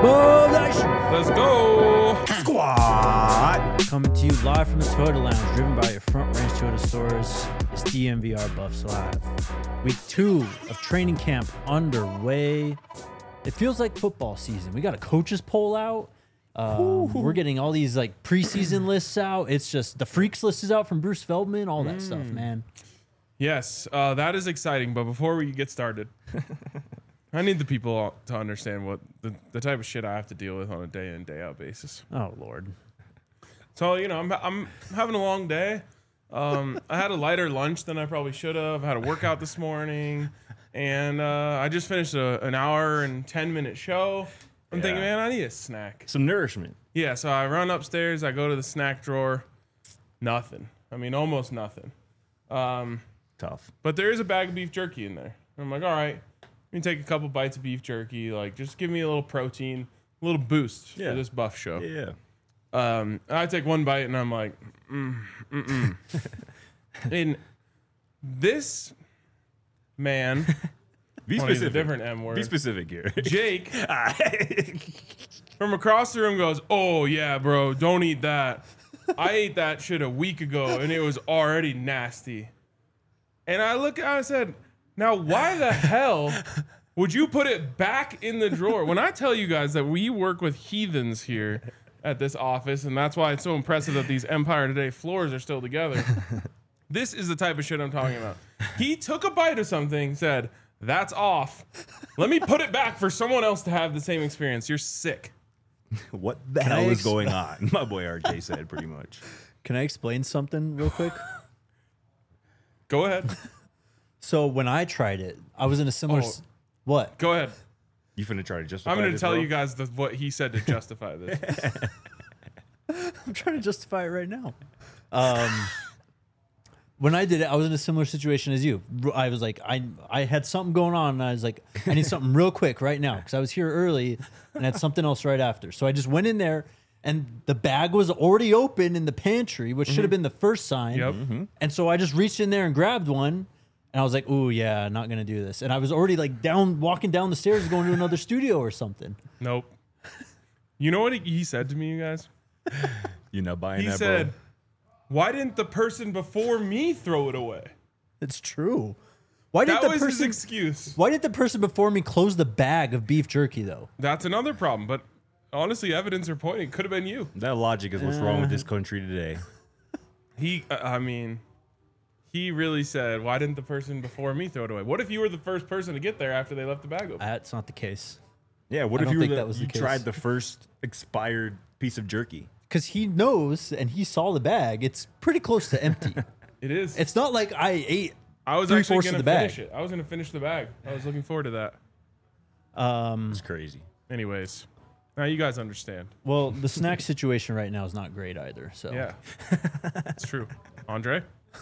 Whoa, Nation! Let's go. Squad. Coming to you live from the Toyota Lounge, driven by your Front Range Toyota stores. It's DMVR Buffs Live. Week 2 of training camp underway. It feels like football season. We got a coaches poll out. We're getting all these like preseason lists out. It's just the freaks list is out from Bruce Feldman, all that stuff, man. Yes, that is exciting. But before we get started, I need the people to understand what the type of shit I have to deal with on a day in, day out basis. Oh Lord. So, you know, I'm having a long day. I had a lighter lunch than I probably should have. I had a workout this morning, and I just finished an hour and 10-minute show. I'm thinking, man, I need a snack. Some nourishment. Yeah, so I run upstairs. I go to the snack drawer. Nothing. I mean, almost nothing. Tough. But there is a bag of beef jerky in there. I'm like, all right, let me take a couple bites of beef jerky. Like, just give me a little protein, a little boost for this buff show. Yeah. I take one bite and I'm like, And this man, Be I'll use specific. a different M word. Be specific here. Jake from across the room goes, oh yeah, bro, don't eat that. I ate that shit a week ago and it was already nasty. And I said, now why the hell would you put it back in the drawer? When I tell you guys that we work with heathens here at this office, and that's why it's so impressive that these Empire Today floors are still together. This is the type of shit I'm talking about. He took a bite of something, said, that's off. Let me put it back for someone else to have the same experience. You're sick. What the hell is going on? My boy RJ said pretty much. Can I explain something real quick? Go ahead. So when I tried it, I was in a similar. Oh. What? Go ahead. You finna try to justify I'm going to this, tell bro? you guys what he said to justify this. I'm trying to justify it right now. When I did it, I was in a similar situation as you. I was like, I had something going on, and I was like, I need something real quick right now because I was here early and had something else right after. So I just went in there, and the bag was already open in the pantry, which should have been the first sign. Yep. And so I just reached in there and grabbed one, and I was like, ooh, yeah, not going to do this. And I was already like walking down the stairs going to another studio or something. Nope. You know what he said to me, you guys? You're not buying He that, said, bro. why didn't the person before me throw it away? It's true. Why did That the was his person? excuse. Why did the person before me close the bag of beef jerky though? That's another problem. But honestly, evidence are pointing. Could have been you. That logic is what's wrong with this country today. He really said, why didn't the person before me throw it away? What if you were the first person to get there after they left the bag open? That's not the case. Yeah, what I if don't you were think that was the you case. tried the first expired piece of jerky? Because he knows and he saw the bag. It's pretty close to empty. It is. It's not like I ate. I was 3/4 actually of going the to bag. finish it. I was going to finish the bag. I was looking forward to that. It's crazy. Anyways, now you guys understand. Well, the snack situation right now is not great either. So Yeah, it's true. Andre?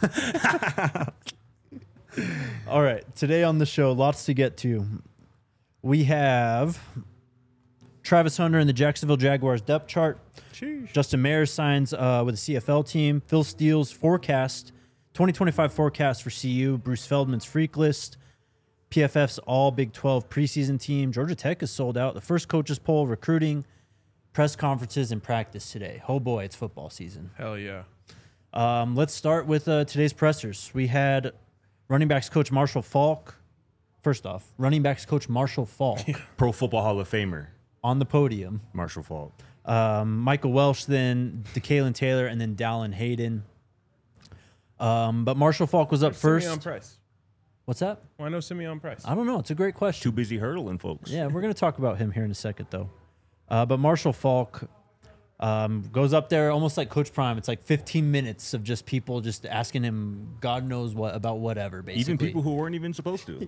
All right. Today on the show, lots to get to. We have Travis Hunter and the Jacksonville Jaguars depth chart. Justin Mayers signs with the CFL team. Phil Steele's 2025 forecast for CU. Bruce Feldman's freak list. PFF's all Big 12 preseason team. Georgia Tech is sold out. The first coaches poll, recruiting, press conferences, and practice today. Oh boy, it's football season. Hell yeah. Let's start with today's pressers. We had running backs coach Marshall Falk. First off, running backs coach Marshall Falk Pro Football Hall of Famer, on the podium. Marshall Falk. Michael Welsh, then DeKalen Taylor, and then Dallin Hayden. But Marshall Falk was up first. Simeon Price. What's that? Why no Simeon Price? I don't know. It's a great question. Too busy hurdling, folks. Yeah, we're going to talk about him here in a second, though. But Marshall Falk goes up there almost like Coach Prime. It's like 15 minutes of just people just asking him God knows what about whatever, basically. Even people who weren't even supposed to.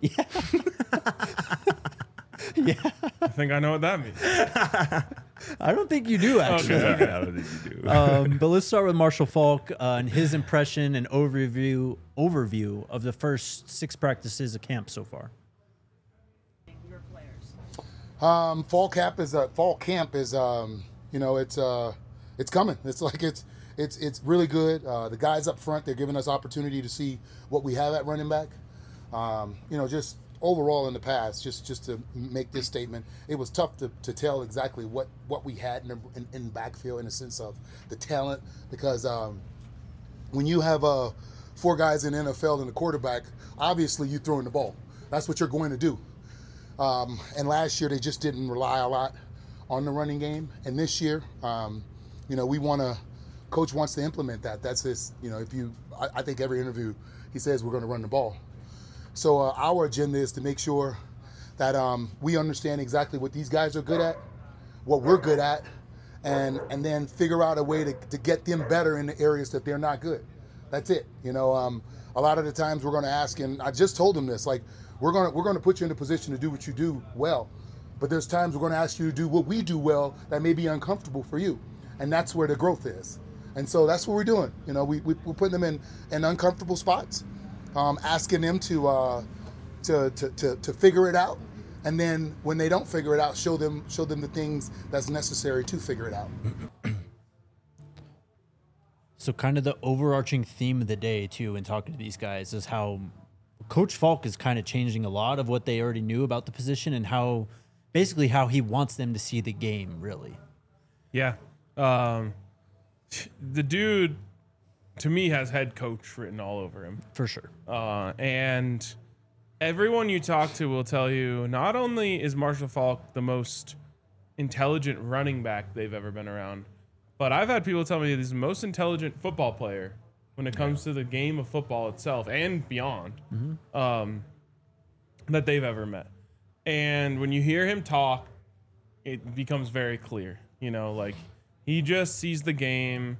I think I know what that means. I don't think you do, actually. Okay. I don't think you do. But let's start with Marshall Falk and his impression and overview of the first 6 practices of camp so far. Fall camp is it's coming. It's like it's really good. The guys up front, they're giving us opportunity to see what we have at running back. Just overall in the past, just to make this statement, it was tough to tell exactly what we had in backfield in the sense of the talent, because when you have 4 guys in the NFL and the quarterback, obviously you throwing the ball. That's what you're going to do. And last year they just didn't rely a lot on the running game. And this year, Coach wants to implement that. That's his, I think every interview he says we're going to run the ball. So our agenda is to make sure that we understand exactly what these guys are good at, what we're good at, and then figure out a way to get them better in the areas that they're not good. That's it. A lot of the times we're going to ask, and I just told them this, like, we're going to put you in a position to do what you do well, but there's times we're going to ask you to do what we do well that may be uncomfortable for you, and that's where the growth is. And so that's what we're doing. We're putting them in uncomfortable spots, asking them to figure it out, and then when they don't figure it out, show them the things that's necessary to figure it out. So kind of the overarching theme of the day, too, in talking to these guys is how Coach Falk is kind of changing a lot of what they already knew about the position and how he wants them to see the game, really. Yeah. The dude, to me, has head coach written all over him. For sure. And everyone you talk to will tell you not only is Marshall Falk the most intelligent running back they've ever been around, but I've had people tell me he's the most intelligent football player when it comes to the game of football itself and beyond, that they've ever met. And when you hear him talk, it becomes very clear. He just sees the game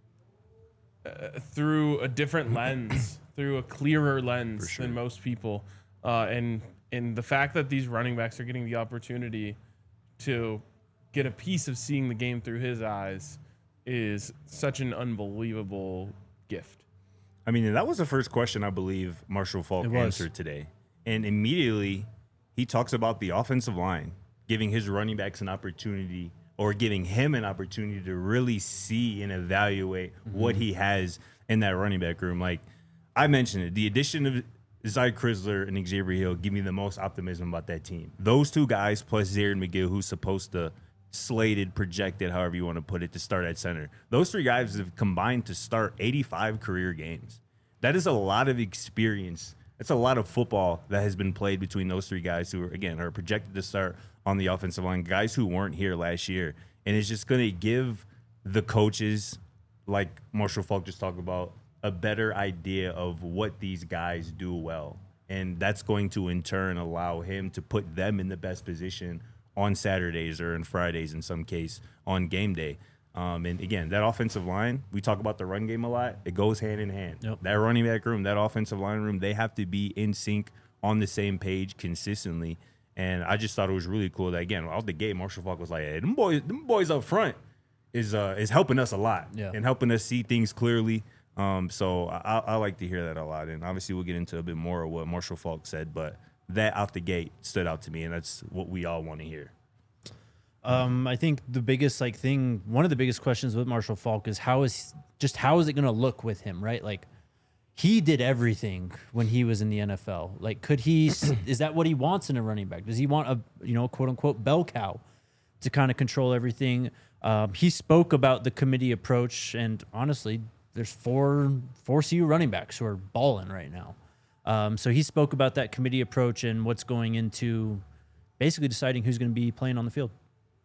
through a different lens, through a clearer lens than most people. And the fact that these running backs are getting the opportunity to get a piece of seeing the game through his eyes is such an unbelievable gift. I mean, that was the first question I believe Marshall Falk answered today. And immediately he talks about the offensive line, giving his running backs an opportunity, or giving him an opportunity to really see and evaluate what he has in that running back room. Like I mentioned it, the addition of Zy Crisler and Xavier Hill give me the most optimism about that team. Those 2 guys plus Zaire McGill, who's supposed to projected, however you want to put it, to start at center. Those 3 guys have combined to start 85 career games. That is a lot of experience. That's a lot of football that has been played between those 3 guys who are projected to start on the offensive line, guys who weren't here last year. And it's just going to give the coaches, like Marshall Falk just talked about, a better idea of what these guys do well. And that's going to, in turn, allow him to put them in the best position on Saturdays or on Fridays, in some case, on game day. And again, that offensive line, we talk about the run game a lot. It goes hand in hand. Yep. That running back room, that offensive line room, they have to be in sync on the same page consistently. And I just thought it was really cool that, again, out the gate, Marshall Falk was like, hey, them boys up front is helping us a lot and helping us see things clearly. So I like to hear that a lot. And obviously we'll get into a bit more of what Marshall Falk said, but that out the gate stood out to me, and that's what we all want to hear. I think the biggest one of the biggest questions with Marshall Falk is how is it going to look with him, right? Like, he did everything when he was in the NFL. Like, could he? Is that what he wants in a running back? Does he want a quote unquote bell cow to kind of control everything? He spoke about the committee approach, and honestly, there's four CU running backs who are balling right now. So he spoke about that committee approach and what's going into basically deciding who's going to be playing on the field.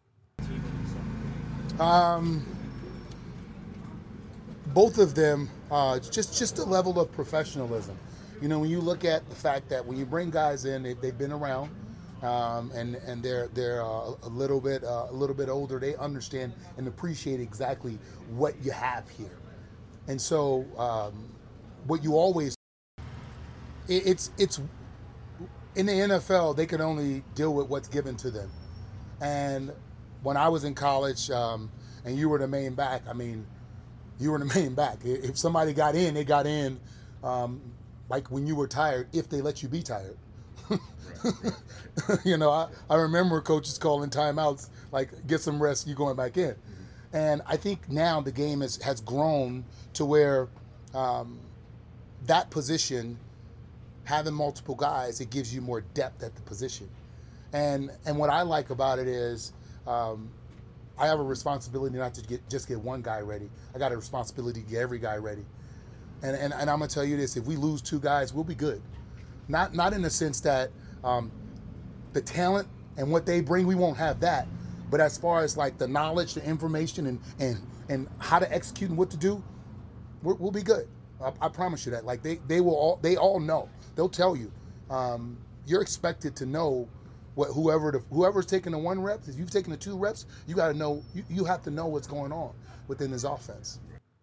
Both of them, just a level of professionalism. When you look at the fact that when you bring guys in, they've been around, and they're a little bit older. They understand and appreciate exactly what you have here, and so what you always. It's in the NFL, they can only deal with what's given to them. And when I was in college, and you were the main back, you were the main back. If somebody got in, they got in, like when you were tired, if they let you be tired. Right. I remember coaches calling timeouts, like, get some rest, you going back in. Mm-hmm. And I think now the game has grown to where that position having multiple guys, it gives you more depth at the position. And what I like about it is I have a responsibility not to just get one guy ready. I got a responsibility to get every guy ready. And I'm gonna tell you this: if we lose 2 guys, we'll be good. Not in the sense that the talent and what they bring, we won't have that. But as far as like the knowledge, the information, and how to execute and what to do, we'll be good. I promise you that. Like they all know. They'll tell you. You're expected to know what whoever's taking the 1 rep. If you've taken the 2 reps, you got to know. You have to know what's going on within this offense.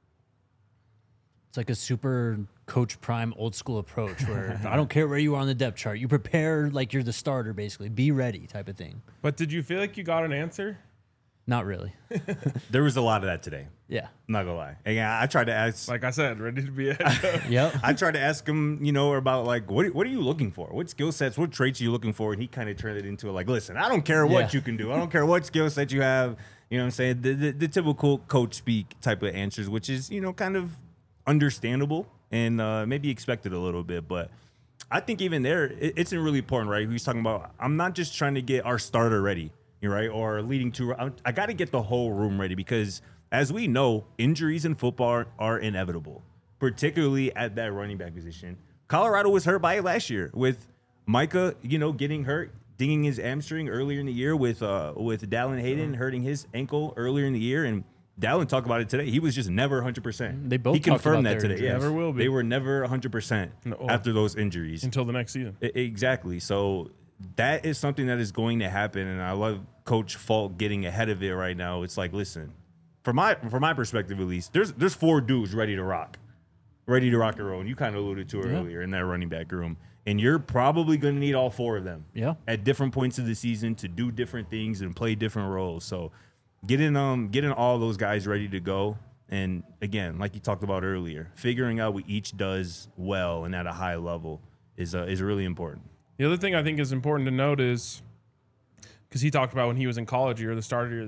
It's like a super Coach Prime old school approach where I don't care where you are on the depth chart. You prepare like you're the starter, basically. Be ready type of thing. But did you feel like you got an answer? Not really. There was a lot of that today. Yeah. I'm not gonna lie. And I tried to ask, Like I said, ready to be a Yep. I tried to ask him, about like what are you looking for? What skill sets, what traits are you looking for? And he kind of turned it into like, listen, I don't care what you can do. I don't care what skill set you have. You know what I'm saying? The typical coach speak type of answers, which is, kind of understandable and maybe expected a little bit. But I think even there, it's really important, right? He's talking about, I'm not just trying to get our starter ready, right? Or leading to, I got to get the whole room ready because as we know, injuries in football are inevitable, particularly at that running back position. Colorado was hurt by it last year with Micah, getting hurt, dinging his hamstring earlier in the year with Dallin Hayden hurting his ankle earlier in the year. And Dallin talked about it today. He was just never 100%. They both he confirmed talked that about today. their Yes. Never will be. They were never 100% after those injuries. until the next season. Exactly. So that is something that is going to happen, and I love Coach Falk getting ahead of it right now. It's like, listen, from my perspective at least, there's 4 dudes ready to rock and roll. And you kind of alluded to it earlier in that running back room. And you're probably going to need all 4 of them at different points of the season to do different things and play different roles. So getting all those guys ready to go. And again, like you talked about earlier, figuring out what each does well and at a high level is really important. The other thing I think is important to note is, because he talked about when he was in college, you're the starter,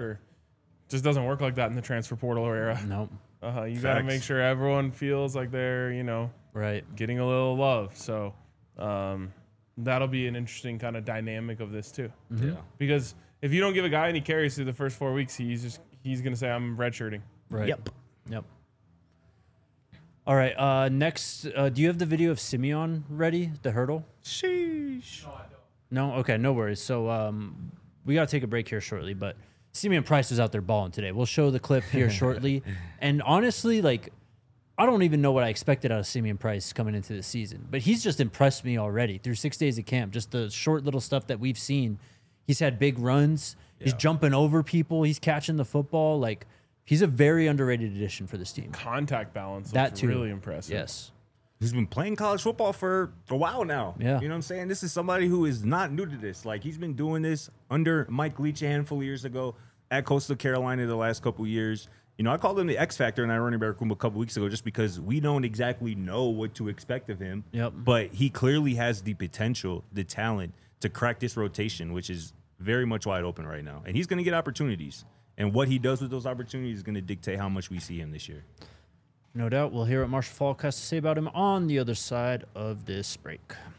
It just doesn't work like that in the transfer portal era. Nope. You got to make sure everyone feels like they're, Right. getting a little love. So that'll be an interesting kind of dynamic of this too. Mm-hmm. Yeah. Because if you don't give a guy any carries through the first 4 weeks, he's going to say, I'm redshirting. Right. Yep. All right. Next, do you have the video of Simeon ready? The hurdle? Sheesh. No? Okay, no worries. So we got to take a break here shortly, but Simeon Price was out there balling today. We'll show the clip here shortly. And honestly, I don't even know what I expected out of Simeon Price coming into the season, but he's just impressed me already through 6 days of camp. Just the short little stuff that we've seen. He's had big runs. Yeah. He's jumping over people. He's catching the football. He's a very underrated addition for this team. Contact balance that too. Really impressive. Yes. He's been playing college football for a while now. Yeah. You know what I'm saying? This is somebody who is not new to this. He's been doing this under Mike Leach a handful of years ago at Coastal Carolina the last couple of years. I called him the X Factor in that running back room a couple weeks ago just because we don't exactly know what to expect of him. Yep. But he clearly has the potential, the talent to crack this rotation, which is very much wide open right now. And he's going to get opportunities. And what he does with those opportunities is going to dictate how much we see him this year. No doubt. We'll hear what Marshall Falk has to say about him on the other side of this break.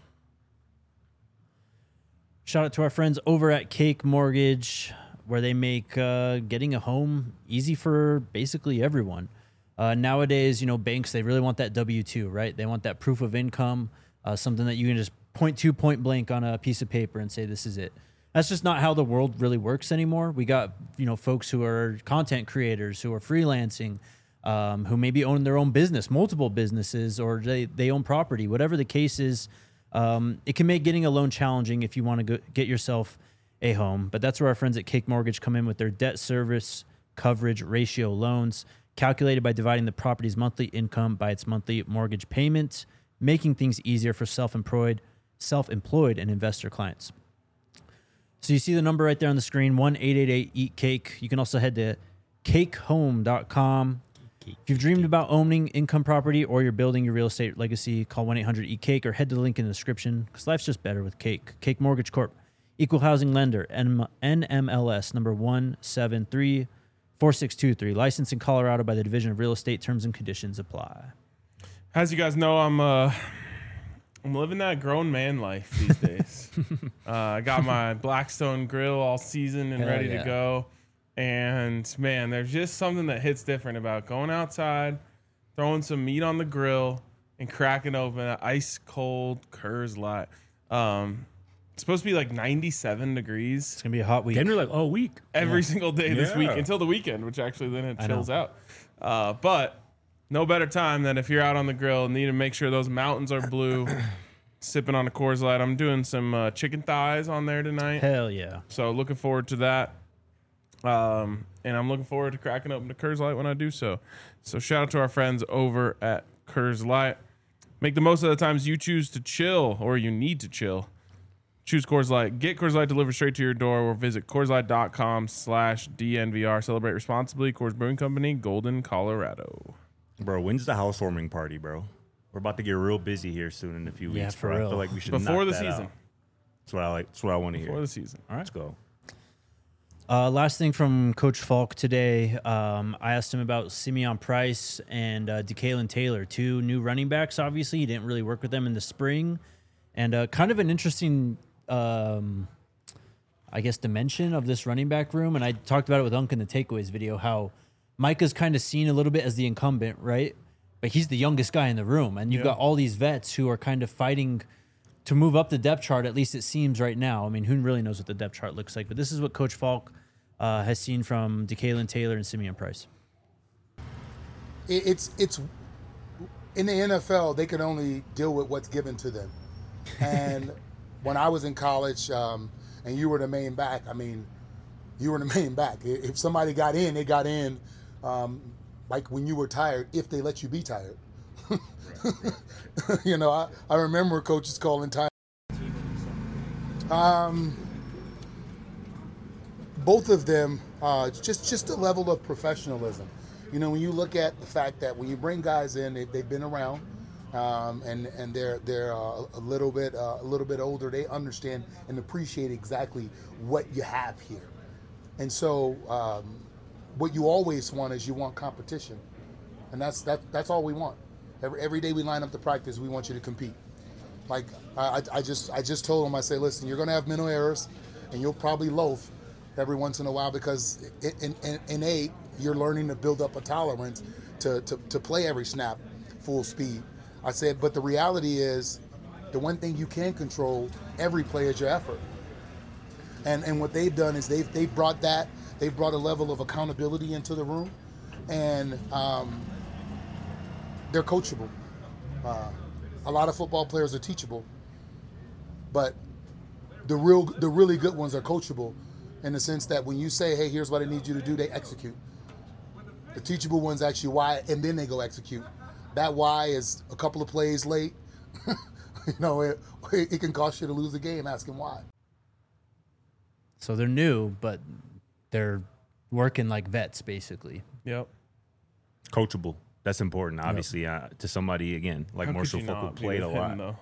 Shout out to our friends over at Cake Mortgage, where they make getting a home easy for basically everyone. Nowadays, banks, they really want that W-2, right? They want that proof of income, something that you can just point to point blank on a piece of paper and say, this is it. That's just not how the world really works anymore. We got, folks who are content creators, who are freelancing, who maybe own their own business, multiple businesses, or they own property. Whatever the case is, it can make getting a loan challenging if you want to get yourself a home. But that's where our friends at Cake Mortgage come in with their debt service coverage ratio loans, calculated by dividing the property's monthly income by its monthly mortgage payment, making things easier for self-employed and investor clients. So you see the number right there on the screen, 1-888-EAT-CAKE. You can also head to cakehome.com. If you've dreamed about owning income property or you're building your real estate legacy, call 1-800-EAT-CAKE or head to the link in the description, because life's just better with Cake. Cake Mortgage Corp. Equal housing lender, NMLS number 1734623. Licensed in Colorado by the Division of Real Estate. Terms and conditions apply. As you guys know, I'm I'm living that grown man life these days. I got my Blackstone grill all seasoned and ready to go. And, man, there's just something that hits different about going outside, throwing some meat on the grill, and cracking open an ice-cold Coors Light. It's supposed to be like 97 degrees. It's going to be a hot week. Denver like all week. Every single day this week until the weekend, which actually then it chills out. But no better time than if you're out on the grill and need to make sure those mountains are blue, sipping on a Coors Light. I'm doing some chicken thighs on there tonight. Hell yeah. So looking forward to that. And I'm looking forward to cracking open the Coors Light when I do so. So shout out to our friends over at Coors Light. Make the most of the times you choose to chill or you need to chill. Choose Coors Light. Get Coors Light delivered straight to your door or visit CoorsLight.com/DNVR. Celebrate responsibly. Coors Brewing Company, Golden, Colorado. Bro, when's the housewarming party, bro? We're about to get real busy here soon in a few weeks, for bro. real. I feel like we should Before knock the that season. out. That's what I like. That's what I want to hear. Before the season. All right, let's go. Last thing from Coach Falk today, I asked him about Simeon Price and DeKalen Taylor, two new running backs. Obviously, he didn't really work with them in the spring. And kind of an interesting, I guess, dimension of this running back room. And I talked about it with Unc in the Takeaways video, how Micah's kind of seen a little bit as the incumbent, right? But he's the youngest guy in the room. And you've got all these vets who are kind of fighting to move up the depth chart, at least it seems right now. I mean, who really knows what the depth chart looks like? But this is what Coach Falk has seen from DeKalen Taylor and Simeon Price. It's in the NFL, they can only deal with what's given to them. And when I was in college and you were the main back, I mean, you were the main back. If somebody got in, they got in like when you were tired, if they let you be tired. You know, I remember coaches calling time. Both of them, just a level of professionalism. You know, when you look at the fact that when you bring guys in, they've been around, and they're a little bit older. They understand and appreciate exactly what you have here, and so what you always want is you want competition, and that's all we want. Every day we line up to practice, we want you to compete. Like I just told them, I say, listen, you're going to have mental errors, and you'll probably loaf every once in a while because in you're learning to build up a tolerance to play every snap full speed. I said, but the reality is, the one thing you can control every play is your effort. And what they've done is they've brought a level of accountability into the room, and they're coachable. A lot of football players are teachable, but the really good ones are coachable in the sense that when you say, hey, here's what I need you to do, they execute. The teachable ones ask you why, and then they go execute. That why is a couple of plays late. You know, it can cost you to lose the game asking why. So they're new, but they're working like vets, basically. Yep. Coachable. That's important, obviously, to somebody, again, like Marshall Falk, who played a lot.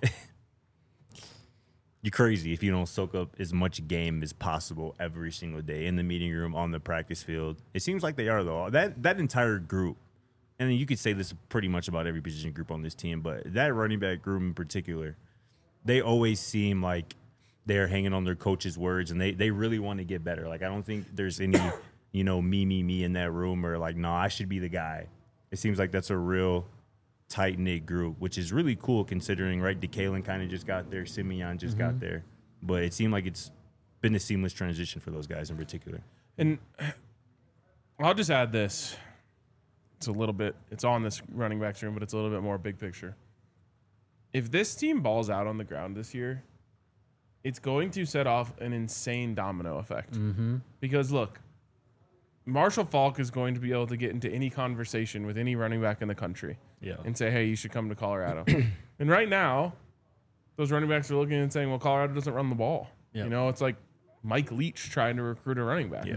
You're crazy if you don't soak up as much game as possible every single day in the meeting room, on the practice field. It seems like they are, though. That entire group, and you could say this pretty much about every position group on this team, but that running back group in particular, they always seem like they're hanging on their coach's words, and they really want to get better. Like, I don't think there's any, me in that room, or like, no, I should be the guy. It seems like that's a real tight-knit group, which is really cool considering, right, DeKalen kind of just got there, Simeon just got there. But it seemed like it's been a seamless transition for those guys in particular. And I'll just add this. It's on this running backs room, but it's a little bit more big picture. If this team balls out on the ground this year, it's going to set off an insane domino effect. Because, look, Marshall Falk is going to be able to get into any conversation with any running back in the country and say, hey, you should come to Colorado. And right now, those running backs are looking and saying, well, Colorado doesn't run the ball. Yep. You know, it's like Mike Leach trying to recruit a running back.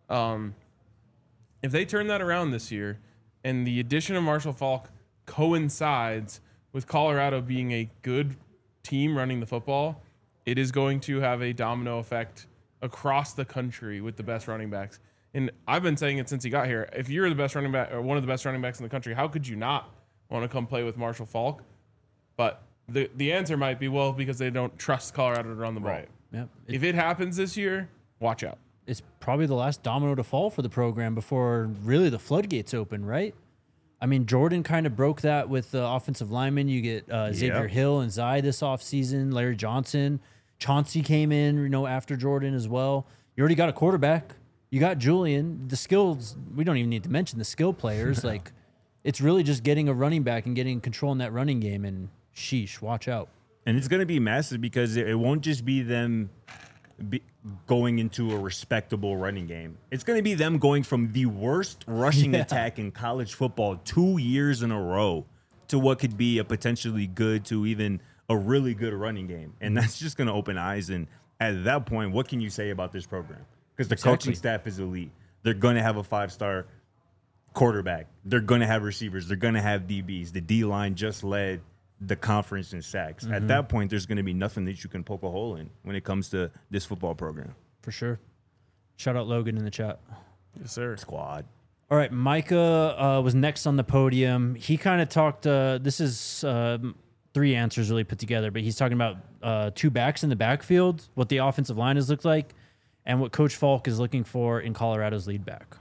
If they turn that around this year and the addition of Marshall Falk coincides with Colorado being a good team running the football, it is going to have a domino effect across the country with the best running backs. And I've been saying it since he got here. If you're the best running back or one of the best running backs in the country, how could you not want to come play with Marshall Falk? But the answer might be, well, because they don't trust Colorado to run the ball. Right. Yep. If it happens this year, watch out. It's probably the last domino to fall for the program before really the floodgates open, right? I mean, Jordan kind of broke that with the offensive linemen. You get Xavier Hill and Zai this offseason, Larry Johnson. Chauncey came in, after Jordan as well. You already got a quarterback. You got Julian. The skills, we don't even need to mention the skill players. Like, it's really just getting a running back and getting control in that running game, and sheesh, watch out. And it's going to be massive because it won't just be them going into a respectable running game. It's going to be them going from the worst rushing attack in college football 2 years in a row to what could be a potentially good to even a really good running game. And that's just going to open eyes. And at that point, what can you say about this program? Because the coaching staff is elite. They're going to have a 5-star quarterback. They're going to have receivers. They're going to have DBs. The D-line just led the conference in sacks. At that point, there's going to be nothing that you can poke a hole in when it comes to this football program. For sure. Shout out Logan in the chat. Yes, sir. Squad. All right, Micah was next on the podium. He kind of talked, this is 3 answers really put together, but he's talking about 2 backs in the backfield, what the offensive line has looked like, and what Coach Falk is looking for in Colorado's lead back.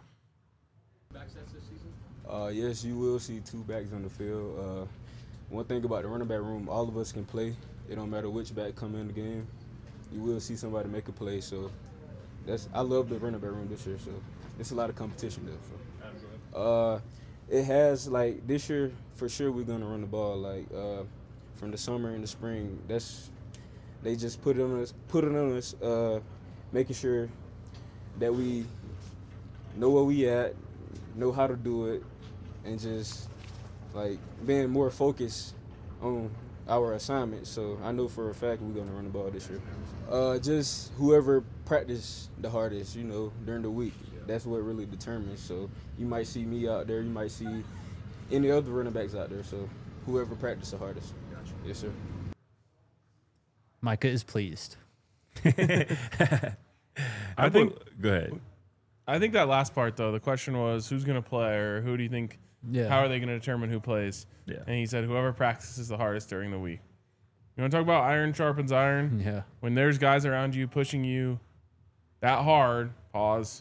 Yes, you will see 2 backs on the field. One thing about the running back room, all of us can play. It don't matter which back come in the game. You will see somebody make a play. So I love the running back room this year. So it's a lot of competition there. So it has, like, this year for sure we're gonna run the ball. Like from the summer and the spring, they just put it on us, making sure that we know where we at, know how to do it, and just like being more focused on our assignment. So I know for a fact we're gonna run the ball this year. Just whoever practiced the hardest, during the week. That's what really determines. So you might see me out there, you might see any other running backs out there. So whoever practiced the hardest. Gotcha. Yes, sir. Micah is pleased. I think. Go ahead. I think that last part though, the question was who's going to play, or who do you think? Yeah. How are they going to determine who plays? Yeah. And he said whoever practices the hardest during the week. You want to talk about iron sharpens iron? Yeah. When there's guys around you pushing you that hard, pause,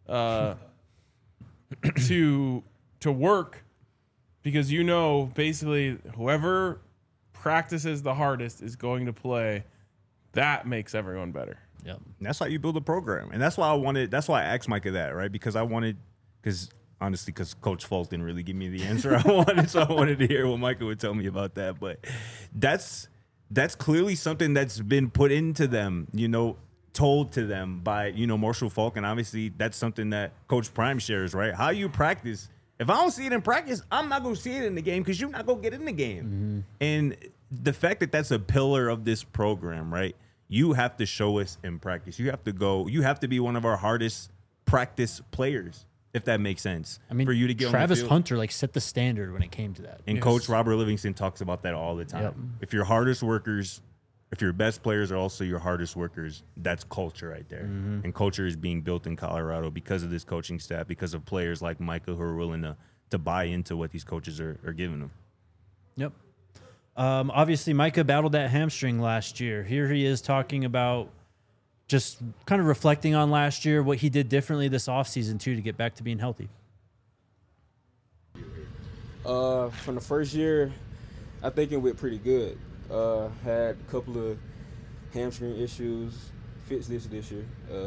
to work, because basically whoever practices the hardest is going to play. That makes everyone better. Yep. And that's how you build a program. And that's why I asked Micah that, right? Because honestly, Coach Falk didn't really give me the answer I wanted, so I wanted to hear what Micah would tell me about that. But that's clearly something that's been put into them, told to them by, Marshall Falk. And obviously that's something that Coach Prime shares, right? How you practice. If I don't see it in practice, I'm not going to see it in the game because you're not going to get in the game. Mm-hmm. And the fact that that's a pillar of this program, right? You have to show us in practice. You have to be one of our hardest practice players, if that makes sense. I mean, for you to get Travis on the field. Hunter set the standard when it came to that. And Yes. Coach Robert Livingston talks about that all the time. Yep. If your hardest workers, if your best players are also your hardest workers, that's culture right there. Mm-hmm. And culture is being built in Colorado because of this coaching staff, because of players like Micah who are willing to buy into what these coaches are giving them. Yep. Obviously, Micah battled that hamstring last year. Here he is talking about just kind of reflecting on last year, what he did differently this offseason, too, to get back to being healthy. From the first year, I think it went pretty good. Had a couple of hamstring issues, fixed this year.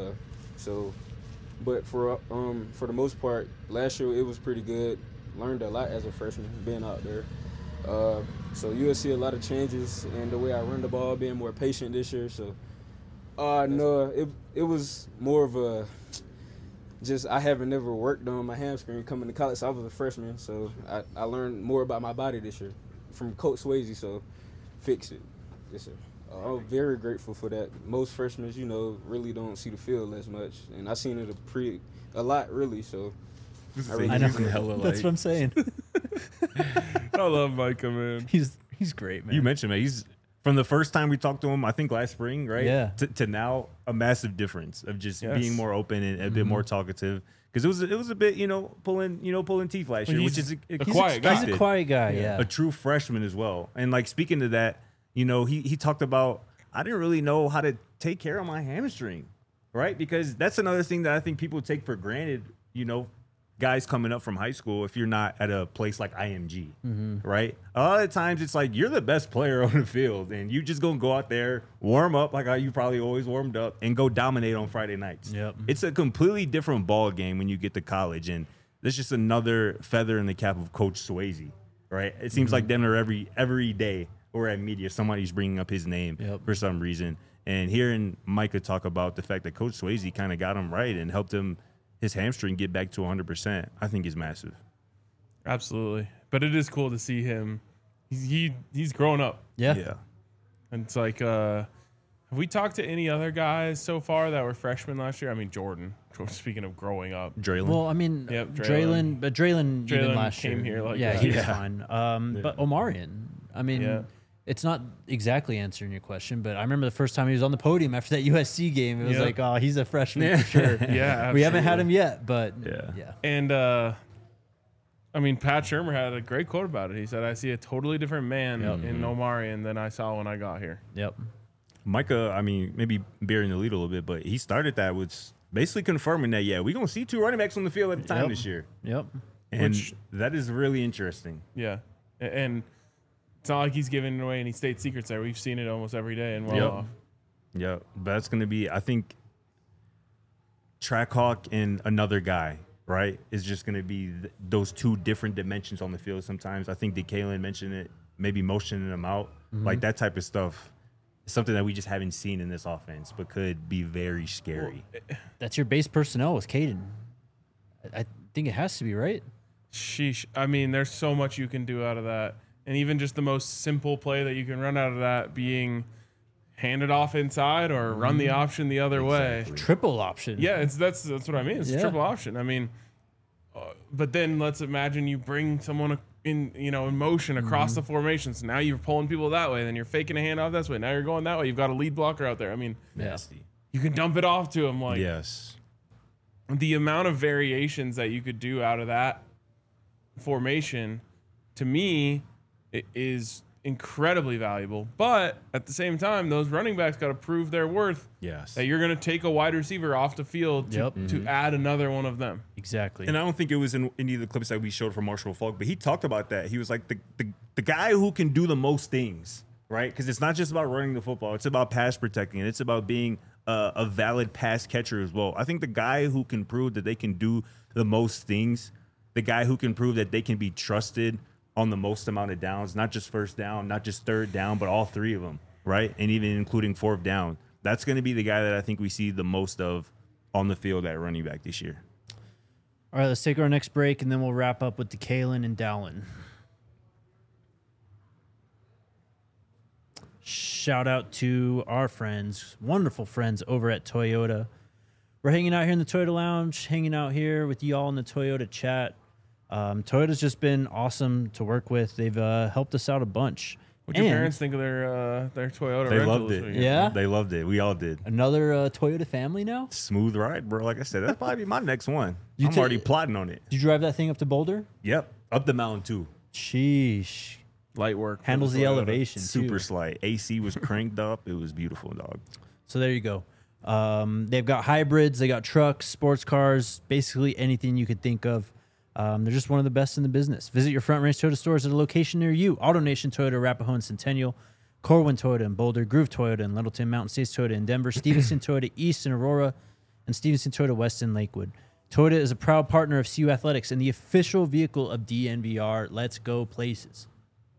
But for the most part, last year it was pretty good. Learned a lot as a freshman being out there. So you'll see a lot of changes in the way I run the ball, being more patient this year. So no, it was more of a I haven't never worked on my hamstring coming to college. So I was a freshman, so I learned more about my body this year from Coach Swayze. So fix it, yes sir. I'm very grateful for that. Most freshmen, really don't see the field as much, and I seen it a lot really. So I know. That's what I'm saying. I love Micah, man. He's great, man. You mentioned, man, he's from the first time we talked to him, I think last spring, right? Yeah. To now, a massive difference of just Yes. being more open and a bit more talkative. Because it was a bit, pulling teeth last year, which is a quiet guy. He's a quiet guy, yeah. A true freshman as well. And like speaking to that, he talked about, I didn't really know how to take care of my hamstring, right? Because that's another thing that I think people take for granted, guys coming up from high school, if you're not at a place like IMG, right? A lot of times it's like you're the best player on the field and you just gonna go out there, warm up like how you probably always warmed up, and go dominate on Friday nights. Yep. It's a completely different ball game when you get to college, and that's just another feather in the cap of Coach Swayze, right? It seems like them every day or at media, somebody's bringing up his name for some reason. And hearing Micah talk about the fact that Coach Swayze kind of got him right and helped him his hamstring get back to 100%, I think is massive. Absolutely. But it is cool to see him. He's grown up. Yeah. And it's like, have we talked to any other guys so far that were freshmen last year? I mean, Jordan. Speaking of growing up. Draylon. Well, I mean, Yep, Draylon, but Draylon even last came year. here like yeah, that. he was fine. But Omarion, I mean, it's not exactly answering your question, but I remember the first time he was on the podium after that USC game. It was like, oh, he's a freshman for sure. Yeah, we haven't had him yet, but Yeah. And, I mean, Pat Shurmur had a great quote about it. He said, I see a totally different man in Omarion than I saw when I got here. Yep. Micah, I mean, maybe bearing the lead a little bit, but he started that with basically confirming that, we're going to see two running backs on the field at a time this year. Yep. And that is really interesting. Yeah. And it's not like he's giving away any state secrets there. We've seen it almost every day and off. Yeah, but that's going to be, I think, Trackhawk and another guy, right, is just going to be those two different dimensions on the field sometimes. I think that Kalen mentioned it, maybe motioning them out. Like that type of stuff is something that we just haven't seen in this offense, but could be very scary. That's your base personnel with Caden. I think it has to be, right? Sheesh. I mean, there's so much you can do out of that. And even just the most simple play that you can run out of that being hand it off inside or run the option the other way. Triple option. Yeah, that's what I mean. It's a triple option. I mean, but then let's imagine you bring someone in motion across the formation. So now you're pulling people that way. Then you're faking a handoff this way. Now you're going that way. You've got a lead blocker out there. I mean, Nasty. you can dump it off to him. Like, Yes. the amount of variations that you could do out of that formation, to me, it is incredibly valuable. But at the same time, those running backs got to prove their worth. Yes. That you're going to take a wide receiver off the field to add another one of them. Exactly. And I don't think it was in any of the clips that we showed from Marshall Falk, but he talked about that. He was like the guy who can do the most things, right? Because it's not just about running the football. It's about pass protecting. And it's about being a valid pass catcher as well. I think the guy who can prove that they can do the most things, the guy who can prove that they can be trusted on the most amount of downs, not just first down, not just third down, but all three of them, right? And even including fourth down. That's going to be the guy that I think we see the most of on the field at running back this year. All right, let's take our next break, and then we'll wrap up with the Kalen and Dallin. Shout out to our friends, wonderful friends over at Toyota. We're hanging out here in the Toyota Lounge, hanging out here with y'all in the Toyota chat. Toyota's just been awesome to work with. They've helped us out a bunch. What your parents think of their Toyota? They rental loved this it. weekend? Yeah? They loved it. We all did. Another Toyota family now? Smooth ride, bro. Like I said, that's probably my next one. You I'm already plotting on it. Did you drive that thing up to Boulder? Yep. Up the mountain, too. Sheesh. Light work. for Handles the Toyota. elevation, Super too. slight. AC was cranked up. It was beautiful, dog. So there you go. They've got hybrids, they got trucks, sports cars, basically anything you could think of. They're just one of the best in the business. Visit your Front Range Toyota stores at a location near you. AutoNation Toyota, Arapahoe and Centennial, Corwin Toyota in Boulder, Groove Toyota in Littleton, Mountain States Toyota in Denver, Stevenson Toyota East in Aurora, and Stevenson Toyota West in Lakewood. Toyota is a proud partner of CU Athletics and the official vehicle of DNVR. Let's go places.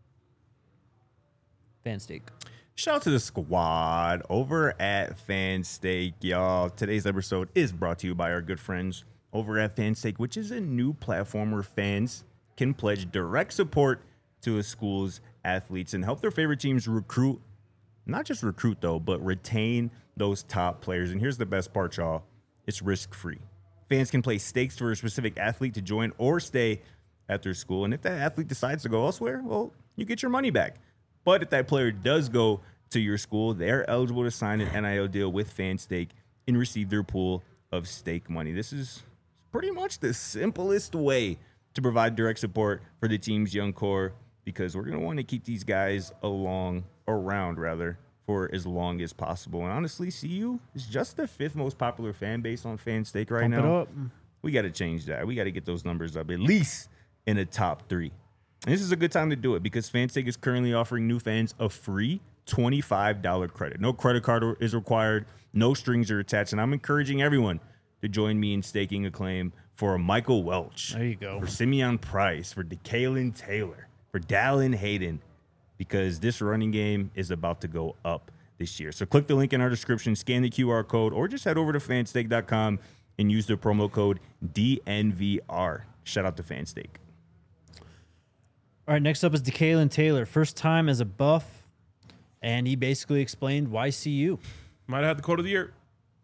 Fansteak. Shout out to the squad over at Fansteak, y'all. Today's episode is brought to you by our good friends over at Fansteak, which is a new platform where fans can pledge direct support to a school's athletes and help their favorite teams recruit, not just recruit though, but retain those top players. And here's the best part, y'all. It's risk-free. Fans can place stakes for a specific athlete to join or stay at their school. And if that athlete decides to go elsewhere, well, you get your money back. But if that player does go to your school, they're eligible to sign an NIL deal with Fanstake and receive their pool of stake money. This is pretty much the simplest way to provide direct support for the team's young core, because we're going to want to keep these guys along around rather for as long as possible. And honestly, CU is just the 5th most popular fan base on FanStake right Pump it now. up. We got to change that. We got to get those numbers up at least in the top 3. And this is a good time to do it because FanStake is currently offering new fans a free $25 credit. No credit card is required. No strings are attached. And I'm encouraging everyone to join me in staking a claim for a Michael Welch. There you go. For Simeon Price, for DeKalen Taylor, for Dallin Hayden, because this running game is about to go up this year. So click the link in our description, scan the QR code, or just head over to fanstake.com and use the promo code DNVR. Shout out to FanStake. All right, next up is DeKalen Taylor. First time as a buff, and he basically explained why CU. Might have had the quote of the year.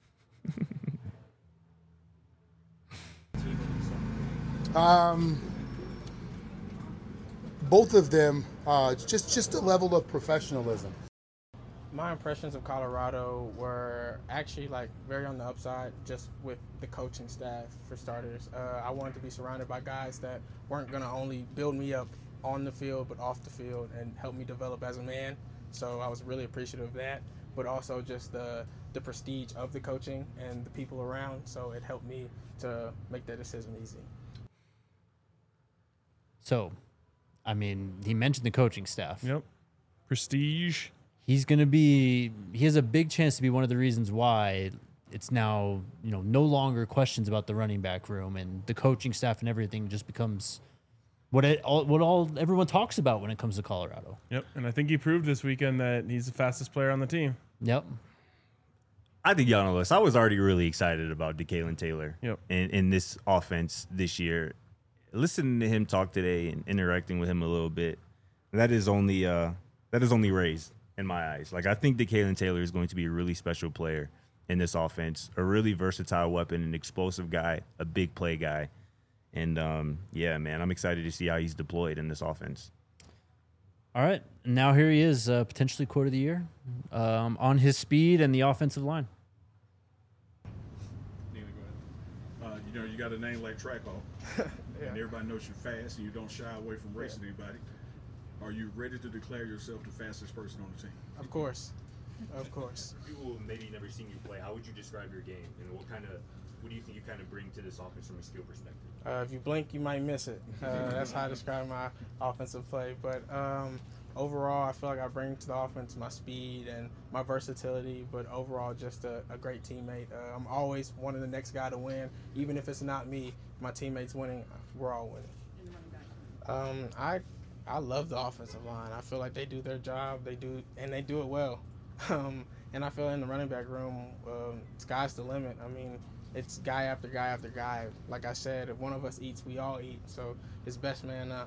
Both of them, just a level of professionalism. My impressions of Colorado were actually like very on the upside, just with the coaching staff for starters. I wanted to be surrounded by guys that weren't going to only build me up on the field, but off the field and help me develop as a man. So I was really appreciative of that, but also just the prestige of the coaching and the people around. So it helped me to make that decision easy. So, I mean, he mentioned the coaching staff. Yep. Prestige. He's going to be, he has a big chance to be one of the reasons why it's now, no longer questions about the running back room, and the coaching staff and everything just becomes what everyone talks about when it comes to Colorado. Yep. And I think he proved this weekend that he's the fastest player on the team. Yep. I think y'all know this. I was already really excited about DeKalen Taylor Yep. in this offense this year. Listening to him talk today and interacting with him a little bit, that is only raised in my eyes. Like, I think DeKalen Taylor is going to be a really special player in this offense, a really versatile weapon, an explosive guy, a big play guy. And, yeah, man, I'm excited to see how he's deployed in this offense. All right. Now here he is, potentially quote of the year, on his speed and the offensive line. Neely, go ahead. You got a name like Trackball, and everybody knows you're fast and you don't shy away from racing anybody. Are you ready to declare yourself the fastest person on the team? Of course. Of course. People who maybe never seen you play, how would you describe your game, and what do you think you kind of bring to this offense from a skill perspective? If you blink, you might miss it. That's how I describe my offensive play. But overall, I feel like I bring to the offense my speed and my versatility, but overall just a great teammate. I'm always wanting the next guy to win. Even if it's not me, my teammates winning, we're all winning. I love the offensive line. I feel like they do their job. They do it well. And I feel in the running back room, sky's the limit. I mean, it's guy after guy after guy. Like I said, if one of us eats, we all eat. So it's best man up.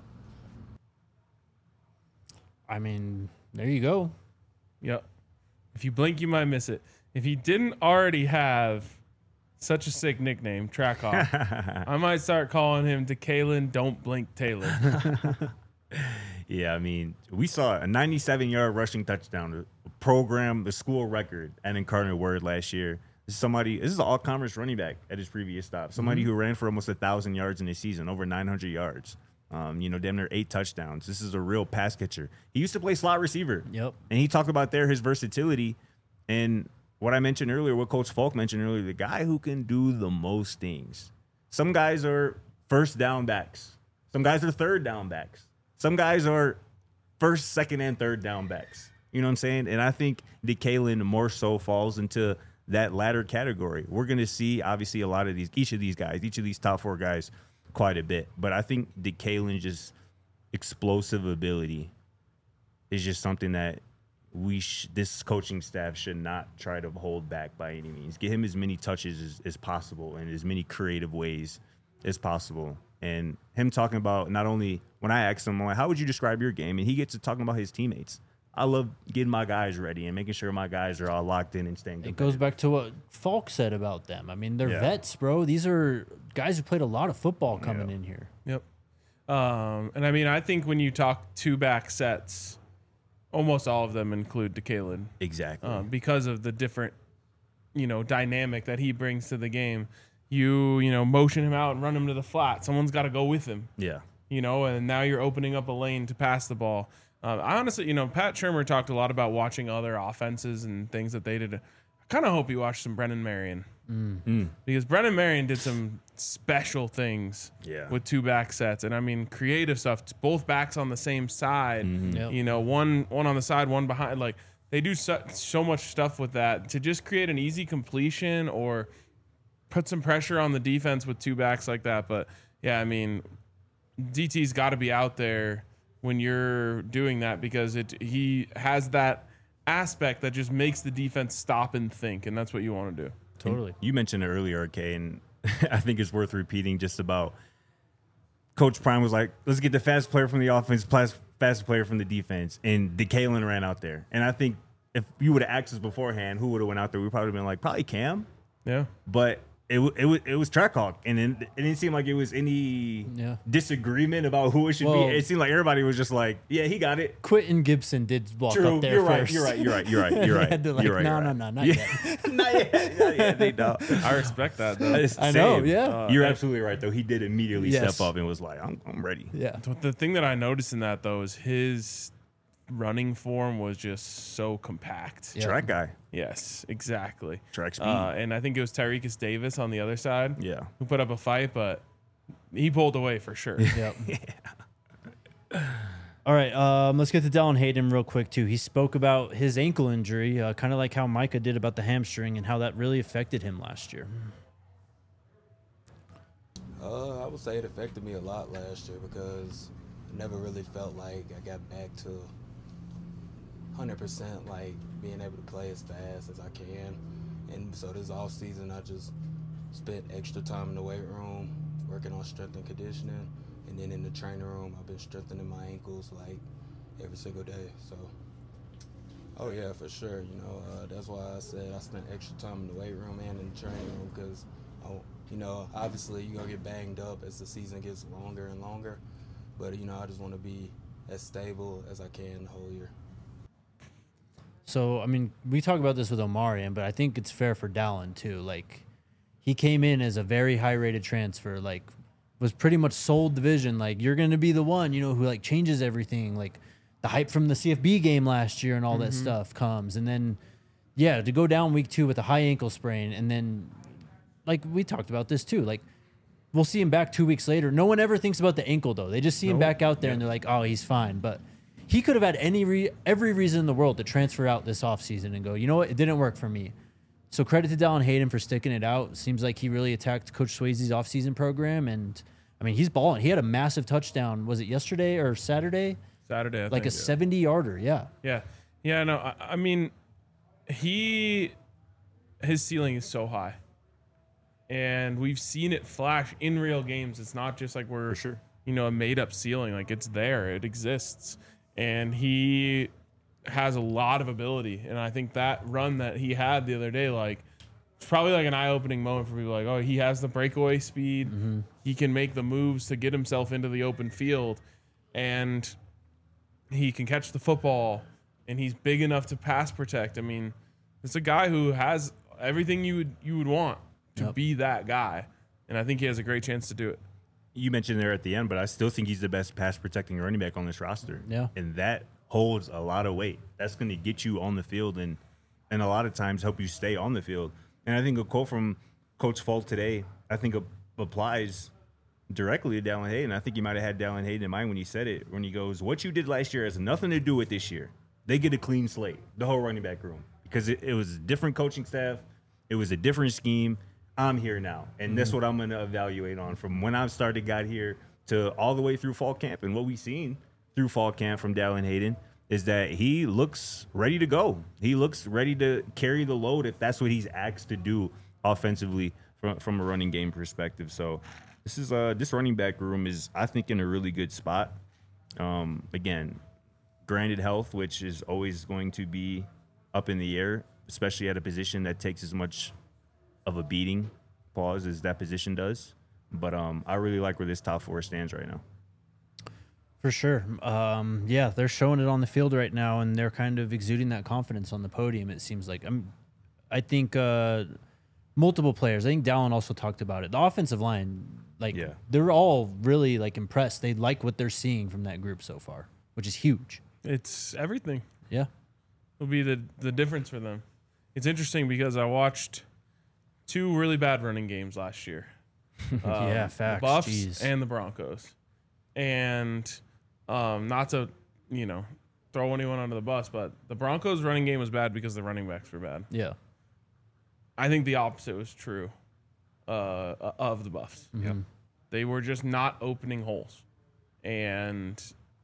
I mean, there you go. Yep. If you blink, you might miss it. If he didn't already have such a sick nickname, Track Off, I might start calling him DeKalen Don't Blink Taylor. Yeah, I mean, we saw a 97-yard rushing touchdown, the school record at Incarnate Word last year. This is an all-commerce running back at his previous stop. Somebody who ran for almost 1,000 yards in a season, over 900 yards. Damn near 8 touchdowns. This is a real pass catcher. He used to play slot receiver. Yep. And he talked about his versatility. And what I mentioned earlier, what Coach Falk mentioned earlier, the guy who can do the most things. Some guys are first down backs. Some guys are third down backs. Some guys are first, second, and third down backs. You know what I'm saying? And I think DeKalen more so falls into that latter category. We're going to see, obviously, each of these top 4 guys quite a bit. But I think DeKalen's just explosive ability is just something that this coaching staff should not try to hold back by any means. Get him as many touches as possible and as many creative ways as possible. And him talking about, not only when I asked him, how would you describe your game? And he gets to talking about his teammates. I love getting my guys ready and making sure my guys are all locked in and staying competitive. It goes back to what Falk said about them. I mean, they're vets, bro. These are guys who played a lot of football coming in here. Yep. And I mean, I think when you talk 2-back sets, almost all of them include DeKalen. Exactly. Because of the different, dynamic that he brings to the game. You motion him out and run him to the flat. Someone's got to go with him. Yeah. And now you're opening up a lane to pass the ball. I honestly, Pat Shurmur talked a lot about watching other offenses and things that they did. I kind of hope you watched some Brennan Marion. Because Brennan Marion did some special things with 2 back sets. And I mean, creative stuff. Both backs on the same side, one on the side, one behind. Like, they do so much stuff with that to just create an easy completion or put some pressure on the defense with 2 backs like that. But yeah, I mean, DT's got to be out there when you're doing that, because he has that aspect that just makes the defense stop and think, and that's what you want to do. Totally. You mentioned it earlier, okay, and I think it's worth repeating just about Coach Prime was like, let's get the fast player from the offense, fast player from the defense, and DeKalen ran out there. And I think if you would have asked us beforehand who would have went out there, we probably been like, probably Cam. Yeah. But it was Trackhawk, and it didn't seem like it was any disagreement about who it should be. It seemed like everybody was just like, yeah, he got it. Quentin Gibson did walk up there first. You're right. Had to no, not yet. Not yet. They don't. I respect that, though. I know, yeah. You're absolutely right, though. He did immediately step up and was like, I'm ready. Yeah. The thing that I noticed in that, though, is his running form was just so compact. Yeah. Track guy. Yes, exactly. Track speed. And I think it was Tyrekus Davis on the other side who put up a fight, but he pulled away for sure. Yep. All right, let's get to Dallan Hayden real quick, too. He spoke about his ankle injury, kind of like how Micah did about the hamstring and how that really affected him last year. I would say it affected me a lot last year because I never really felt like I got back to 100% like being able to play as fast as I can. And so this off season, I just spent extra time in the weight room working on strength and conditioning. And then in the training room, I've been strengthening my ankles like every single day. So, oh yeah, for sure. That's why I said I spent extra time in the weight room and in the training room because, obviously you're going to get banged up as the season gets longer and longer. But, I just want to be as stable as I can the whole year. So, I mean, we talk about this with Omarion, but I think it's fair for Dallan, too. Like, he came in as a very high-rated transfer, like, was pretty much sold the vision. Like, you're going to be the one, who, like, changes everything. Like, the hype from the CFB game last year and all that stuff comes. And then, to go down week 2 with a high ankle sprain, and then, like, we talked about this, too. Like, we'll see him back 2 weeks later. No one ever thinks about the ankle, though. They just see him back out there, and they're like, oh, he's fine. But he could have had every reason in the world to transfer out this offseason and go, you know what, it didn't work for me. So credit to Dallan Hayden for sticking it out. Seems like he really attacked Coach Swayze's offseason program. And, I mean, he's balling. He had a massive touchdown. Was it yesterday or Saturday? Saturday, I like think. A 70-yarder, yeah. Yeah, no, I mean, his ceiling is so high. And we've seen it flash in real games. It's not just like we're, a made-up ceiling. Like, it's there. It exists. And he has a lot of ability. And I think that run that he had the other day, like, it's probably like an eye-opening moment for people. Like, oh, he has the breakaway speed. He can make the moves to get himself into the open field. And he can catch the football. And he's big enough to pass protect. I mean, it's a guy who has everything you would want to be that guy. And I think he has a great chance to do it. You mentioned there at the end, but I still think he's the best pass protecting running back on this roster. Yeah. And that holds a lot of weight. That's going to get you on the field and a lot of times help you stay on the field. And I think a quote from Coach Folk today, I think applies directly to Dallan Hayden. I think he might have had Dallan Hayden in mind when he said it, when he goes, what you did last year has nothing to do with this year. They get a clean slate, the whole running back room, because it was a different coaching staff. It was a different scheme. I'm here now, and that's what I'm going to evaluate on from when I got here to all the way through fall camp. And what we've seen through fall camp from Dallan Hayden is that he looks ready to go. He looks ready to carry the load if that's what he's asked to do offensively from a running game perspective. So this running back room is, I think, in a really good spot. Again, granted health, which is always going to be up in the air, especially at a position that takes as much of a beating pause as that position does. But I really like where this top 4 stands right now. For sure. They're showing it on the field right now, and they're kind of exuding that confidence on the podium, it seems like. I think multiple players. I think Dallan also talked about it. The offensive line, they're all really, impressed. They like what they're seeing from that group so far, which is huge. It's everything. Yeah. Will be the difference for them. It's interesting because I watched 2 really bad running games last year. Yeah, facts. The Buffs Jeez. and the Broncos. And not to, throw anyone under the bus, but the Broncos running game was bad because the running backs were bad. Yeah. I think the opposite was true of the Buffs. Mm-hmm. Yep. They were just not opening holes. And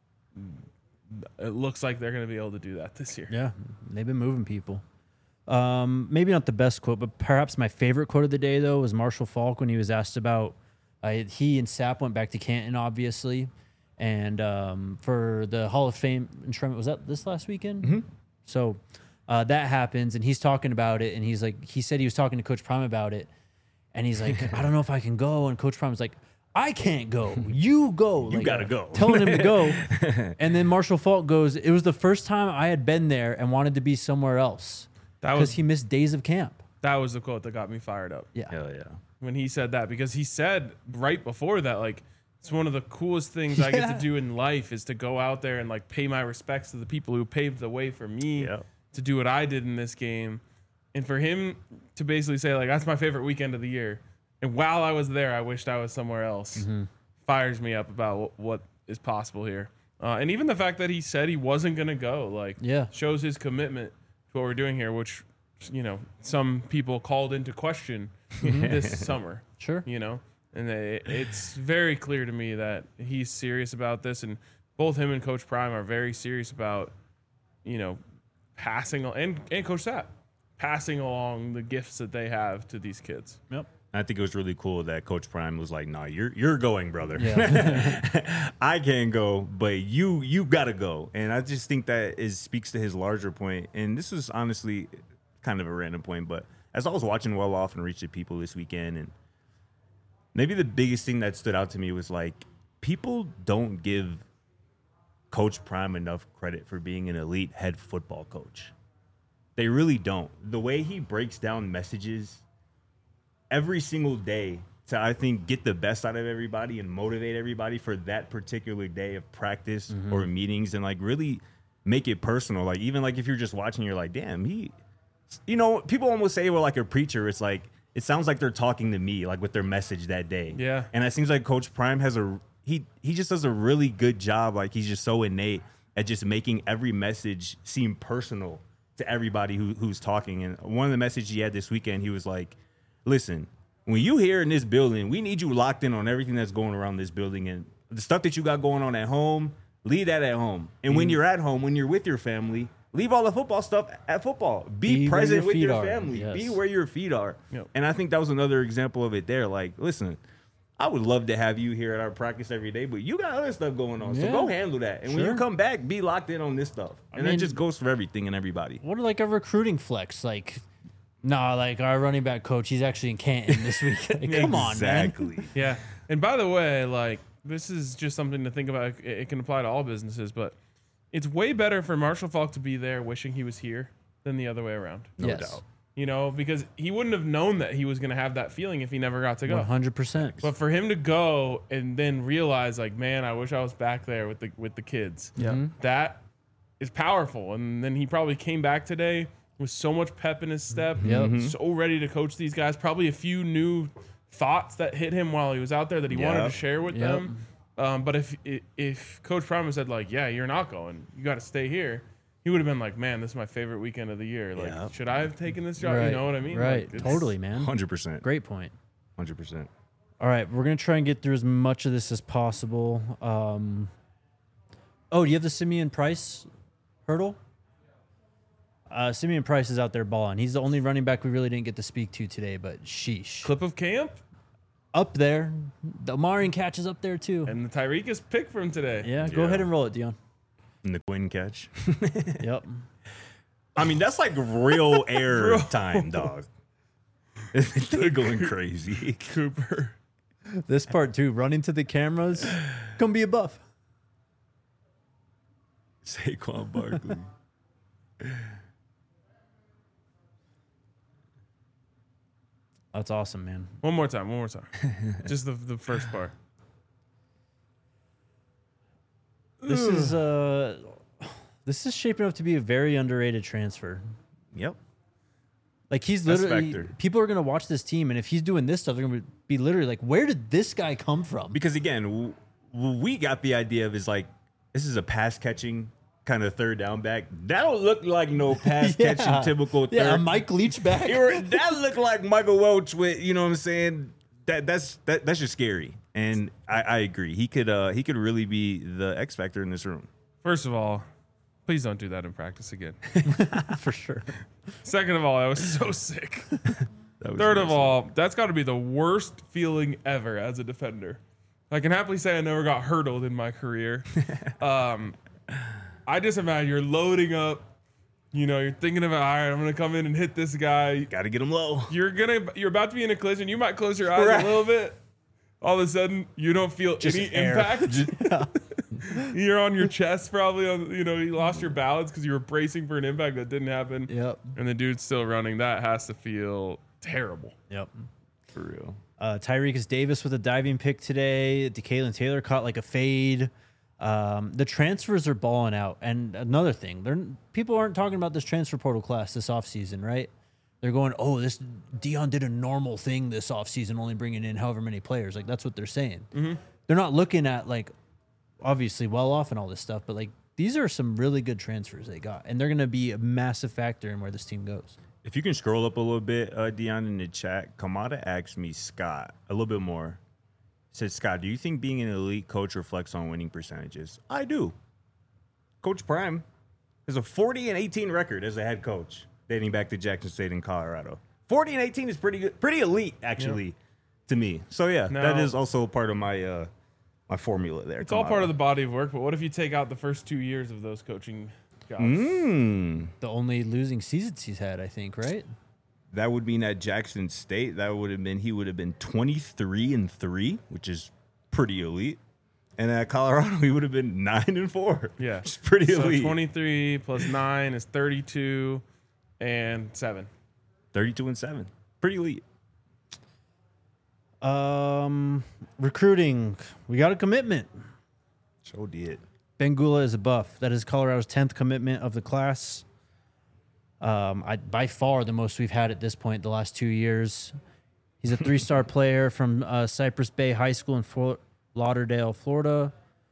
it looks like they're going to be able to do that this year. Yeah. They've been moving people. Maybe not the best quote, but perhaps my favorite quote of the day, though, was Marshall Faulk when he was asked about he and Sapp went back to Canton, obviously. And for the Hall of Fame enshrinement, was that this last weekend? Mm-hmm. So that happens, and he's talking about it, and he said he was talking to Coach Prime about it, and he's like, I don't know if I can go, and Coach Prime's like, I can't go. You go. You gotta go. Telling him to go. And then Marshall Faulk goes, it was the first time I had been there and wanted to be somewhere else because he missed days of camp. That was the quote that got me fired up. Yeah. Hell yeah. When he said that, because he said right before that, like, it's one of the coolest things I get to do in life is to go out there and like pay my respects to the people who paved the way for me to do what I did in this game. And for him to basically say, like, that's my favorite weekend of the year. And while I was there, I wished I was somewhere else. Fires me up about what is possible here. And even the fact that he said he wasn't going to go, like, shows his commitment to what we're doing here, which, some people called into question this summer. Sure. And it's very clear to me that he's serious about this. And both him and Coach Prime are very serious about, passing, and Coach Sapp, passing along the gifts that they have to these kids. Yep. I think it was really cool that Coach Prime was like, "Nah, you're going, brother. Yeah. I can't go, but you gotta go." And I just think that speaks to his larger point. And this is honestly kind of a random point, but as I was watching Well Off and Reach the People this weekend, and maybe the biggest thing that stood out to me was like people don't give Coach Prime enough credit for being an elite head football coach. They really don't. The way he breaks down messages every single day to, I think, get the best out of everybody and motivate everybody for that particular day of practice or meetings, and like really make it personal. Like even like if you're just watching, you're like, damn, people almost say, well, like a preacher, it's like, it sounds like they're talking to me, like with their message that day. Yeah. And it seems like Coach Prime has he just does a really good job. Like he's just so innate at just making every message seem personal to everybody who's talking. And one of the messages he had this weekend, he was like, listen, when you here in this building, we need you locked in on everything that's going around this building, and the stuff that you got going on at home, leave that at home. And when you're at home, when you're with your family, leave all the football stuff at football. Be present with your family. Yes. Be where your feet are. Yep. And I think that was another example of it there. Like, listen, I would love to have you here at our practice every day, but you got other stuff going on. So go handle that. And when you come back, be locked in on this stuff. And that just goes for everything and everybody. What like a recruiting flex? Like, like our running back coach, he's actually in Canton this week. Like, come on, man. Exactly. Yeah. And by the way, like, this is just something to think about. It can apply to all businesses, but it's way better for Marshall Faulk to be there wishing he was here than the other way around. No Yes. doubt. Because he wouldn't have known that he was going to have that feeling if he never got to go. 100%. But for him to go and then realize, like, man, I wish I was back there with the kids. Yeah. That is powerful. And then he probably came back today with so much pep in his step, so ready to coach these guys. Probably a few new thoughts that hit him while he was out there that he wanted to share with them. But if Coach Prime had said, like, yeah, you're not going, you got to stay here, he would have been like, man, this is my favorite weekend of the year. Like, should I have taken this job? Right. You know what I mean? Right. Like, Totally, man. 100%. Great point. 100%. All right, we're going to try and get through as much of this as possible. Do you have the Simeon Price hurdle? Simeon Price is out there balling. He's the only running back we really didn't get to speak to today, but sheesh. Clip of camp Up there. The Omarion catch is up there, too. and the Tyreek pick from today. Yeah, go ahead and roll it, Dion. And the Quinn catch. Yep. I mean, that's like real air time, dog. They're going crazy. Cooper. This part, too, running to the cameras. Come be a buff. Saquon Barkley. That's awesome, man. One more time. Just the first part. This is This is shaping up to be a very underrated transfer. Yep. Like he's That's literally, factor. people are going to watch this team, and if he's doing this stuff, they're going to be literally like, where did this guy come from? Because again, we got the idea of is like, this is a pass catching kind of third down back. That don't look like no pass catching typical third. Yeah, a Mike Leach back. That looked like Michael Welch with, you know what I'm saying? That's just scary. And I agree. He could really be the X factor in this room. First of all, please don't do that in practice again. For sure. Second of all, I was so sick. That was Third of amazing. all, that's got to be the worst feeling ever as a defender. I can happily say I never got hurdled in my career. I just imagine you're loading up. You know, you're thinking about, all right, I'm gonna come in and hit this guy. Gotta get him low. You're about to be in a collision. You might close your eyes a little bit. All of a sudden, you don't feel any impact. You're on your chest, probably. You lost your balance because you were bracing for an impact that didn't happen. Yep. And the dude's still running. That has to feel terrible. Yep. For real. Tyreek Davis with a diving pick today. DeKalen Taylor caught like a fade. The transfers are balling out. And another thing, people aren't talking about this transfer portal class this offseason, right? They're going, oh, this Dion did a normal thing this offseason, only bringing in however many players. Like, that's what they're saying. Mm-hmm. They're not looking at, like, obviously well off and all this stuff, but, like, these are some really good transfers they got. And they're going to be a massive factor in where this team goes. If you can scroll up a little bit, Dion, in the chat, Kamada asked me, Scott, a little bit more. Said, Scott, do you think being an elite coach reflects on winning percentages? I do. Coach Prime has a 40-18 record as a head coach, dating back to Jackson State in Colorado. 40-18 is pretty good, pretty elite, actually, to me. So, yeah, that is also part of my my formula there. It's all part of the body of work, but what if you take out the first 2 years of those coaching jobs? The only losing seasons he's had, I think, right? That would mean at Jackson State, he would have been 23-3, which is pretty elite. And at Colorado, he would have been 9-4. Yeah. It's pretty elite. 23 plus 9 is 32 and 7. 32-7. Pretty elite. Recruiting. We got a commitment. So did. Ben Gula is a buff. That is Colorado's 10th commitment of the class. By far the most we've had at this point the last 2 years. He's a 3-star player from Cypress Bay High School in Fort Lauderdale, Florida.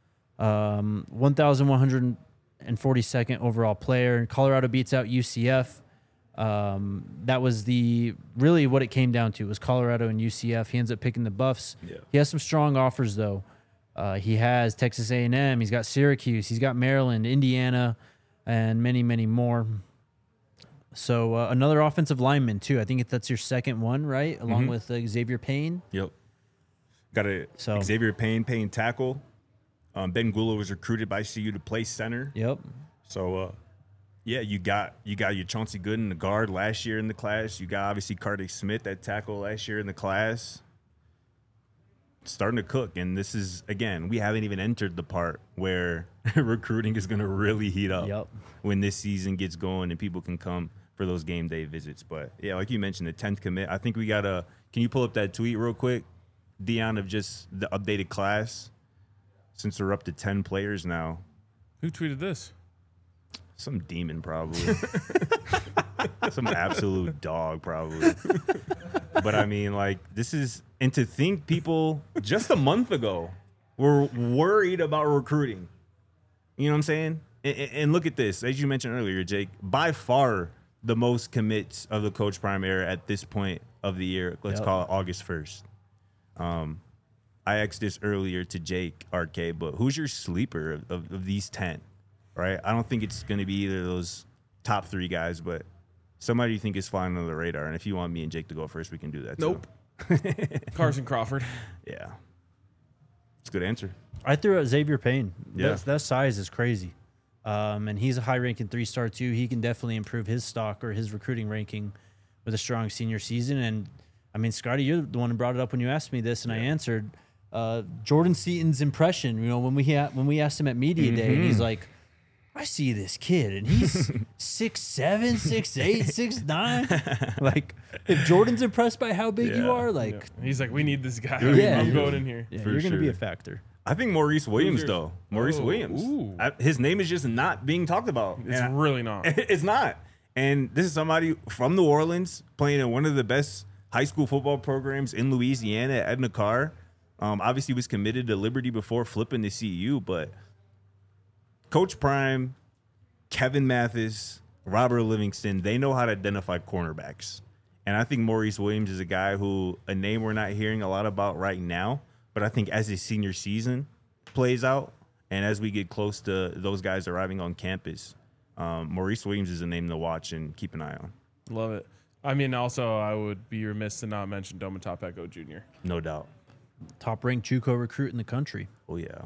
1,142nd overall player. And Colorado beats out UCF. That was really what it came down to was Colorado and UCF. He ends up picking the Buffs. Yeah. He has some strong offers though. He has Texas A&M. He's got Syracuse. He's got Maryland, Indiana, and many, many more. So another offensive lineman too. I think that's your second one, right? Along with Xavier Payne. Yep. Got Xavier Payne tackle. Ben Gula was recruited by CU to play center. Yep. So, yeah, you got your Chauncey Gooden, the guard last year in the class. You got obviously Kartik Smith, that tackle last year in the class. Starting to cook, and this is, again, we haven't even entered the part where recruiting is going to really heat up when this season gets going and people can come for those game day visits. But, yeah, like you mentioned, the 10th commit. I think we got to – can you pull up that tweet real quick, Dion, of just the updated class since we're up to 10 players now? Who tweeted this? Some demon, probably. Some absolute dog, probably. But, I mean, like, this is – and to think people just a month ago were worried about recruiting. You know what I'm saying? And look at this. As you mentioned earlier, Jake, by far the most commits of the Coach Prime era at this point of the year. Let's call it August 1st. I asked this earlier to Jake, RK, but who's your sleeper of these 10? Right? I don't think it's going to be either of those top 3 guys, but somebody you think is flying under the radar. And if you want me and Jake to go first, we can do that. Nope. Carson Crawford. Yeah. It's a good answer. I threw out Xavier Payne. Yeah. That size is crazy. And he's a high-ranking 3-star, too. He can definitely improve his stock or his recruiting ranking with a strong senior season. And, I mean, Scotty, you're the one who brought it up when you asked me this, and I answered. Jordan Seaton's impression, you know, when we asked him at Media Day, and he's like, I see this kid, and he's 6'7", 6'8", 6'9". Like, if Jordan's impressed by how big you are, like... He's like, we need this guy. Yeah. I'm going in here. Yeah, For you're going to be a sure. factor. I think Maurice Williams, yours? though. Maurice Oh, Williams. ooh. His name is just not being talked about. It's And really not. It's not. And this is somebody from New Orleans playing in one of the best high school football programs in Louisiana at Edna Carr. Obviously was committed to Liberty before flipping to CU, but Coach Prime, Kevin Mathis, Robert Livingston, they know how to identify cornerbacks. And I think Maurice Williams is a guy who, a name we're not hearing a lot about right now, but I think as his senior season plays out and as we get close to those guys arriving on campus, Maurice Williams is a name to watch and keep an eye on. Love it. I mean, also, I would be remiss to not mention Domotop Echo Jr. No doubt. Top-ranked JUCO recruit in the country. Oh, yeah.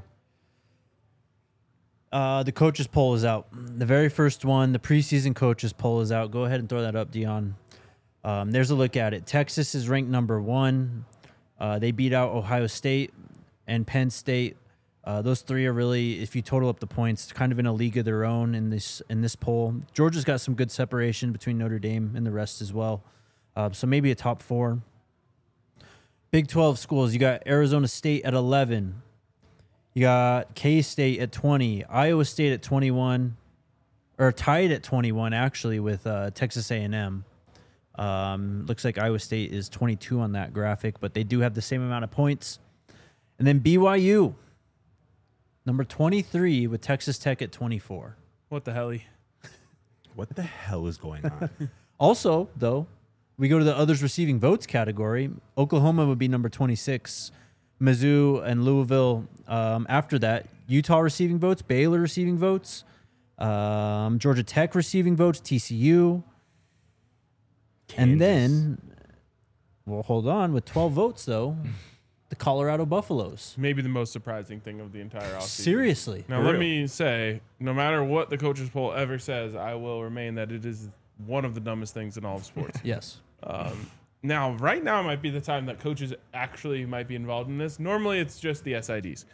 The coaches poll is out. The very first one, the preseason coaches poll is out. Go ahead and throw that up, Dion. There's a look at it. Texas is ranked number 1. They beat out Ohio State and Penn State. Those three are really, if you total up the points, kind of in a league of their own in this poll. Georgia's got some good separation between Notre Dame and the rest as well. So maybe a top 4. Big 12 schools, you got Arizona State at 11. You got K-State at 20. Iowa State at 21. Or tied at 21, actually, with Texas A&M. Looks like Iowa State is 22 on that graphic, but they do have the same amount of points. And then BYU, number 23, with Texas Tech at 24. What the hell? What the hell is going on? Also, though, we go to the others receiving votes category. Oklahoma would be number 26. Mizzou and Louisville after that. Utah receiving votes. Baylor receiving votes. Georgia Tech receiving votes. TCU. Kansas. And then, well, hold on. With 12 votes, though, the Colorado Buffaloes. Maybe the most surprising thing of the entire offseason. Seriously. Now, let me say, no matter what the coaches poll ever says, I will remain that it is one of the dumbest things in all of sports. Yes. Now, right now might be the time that coaches actually might be involved in this. Normally, it's just the SIDs.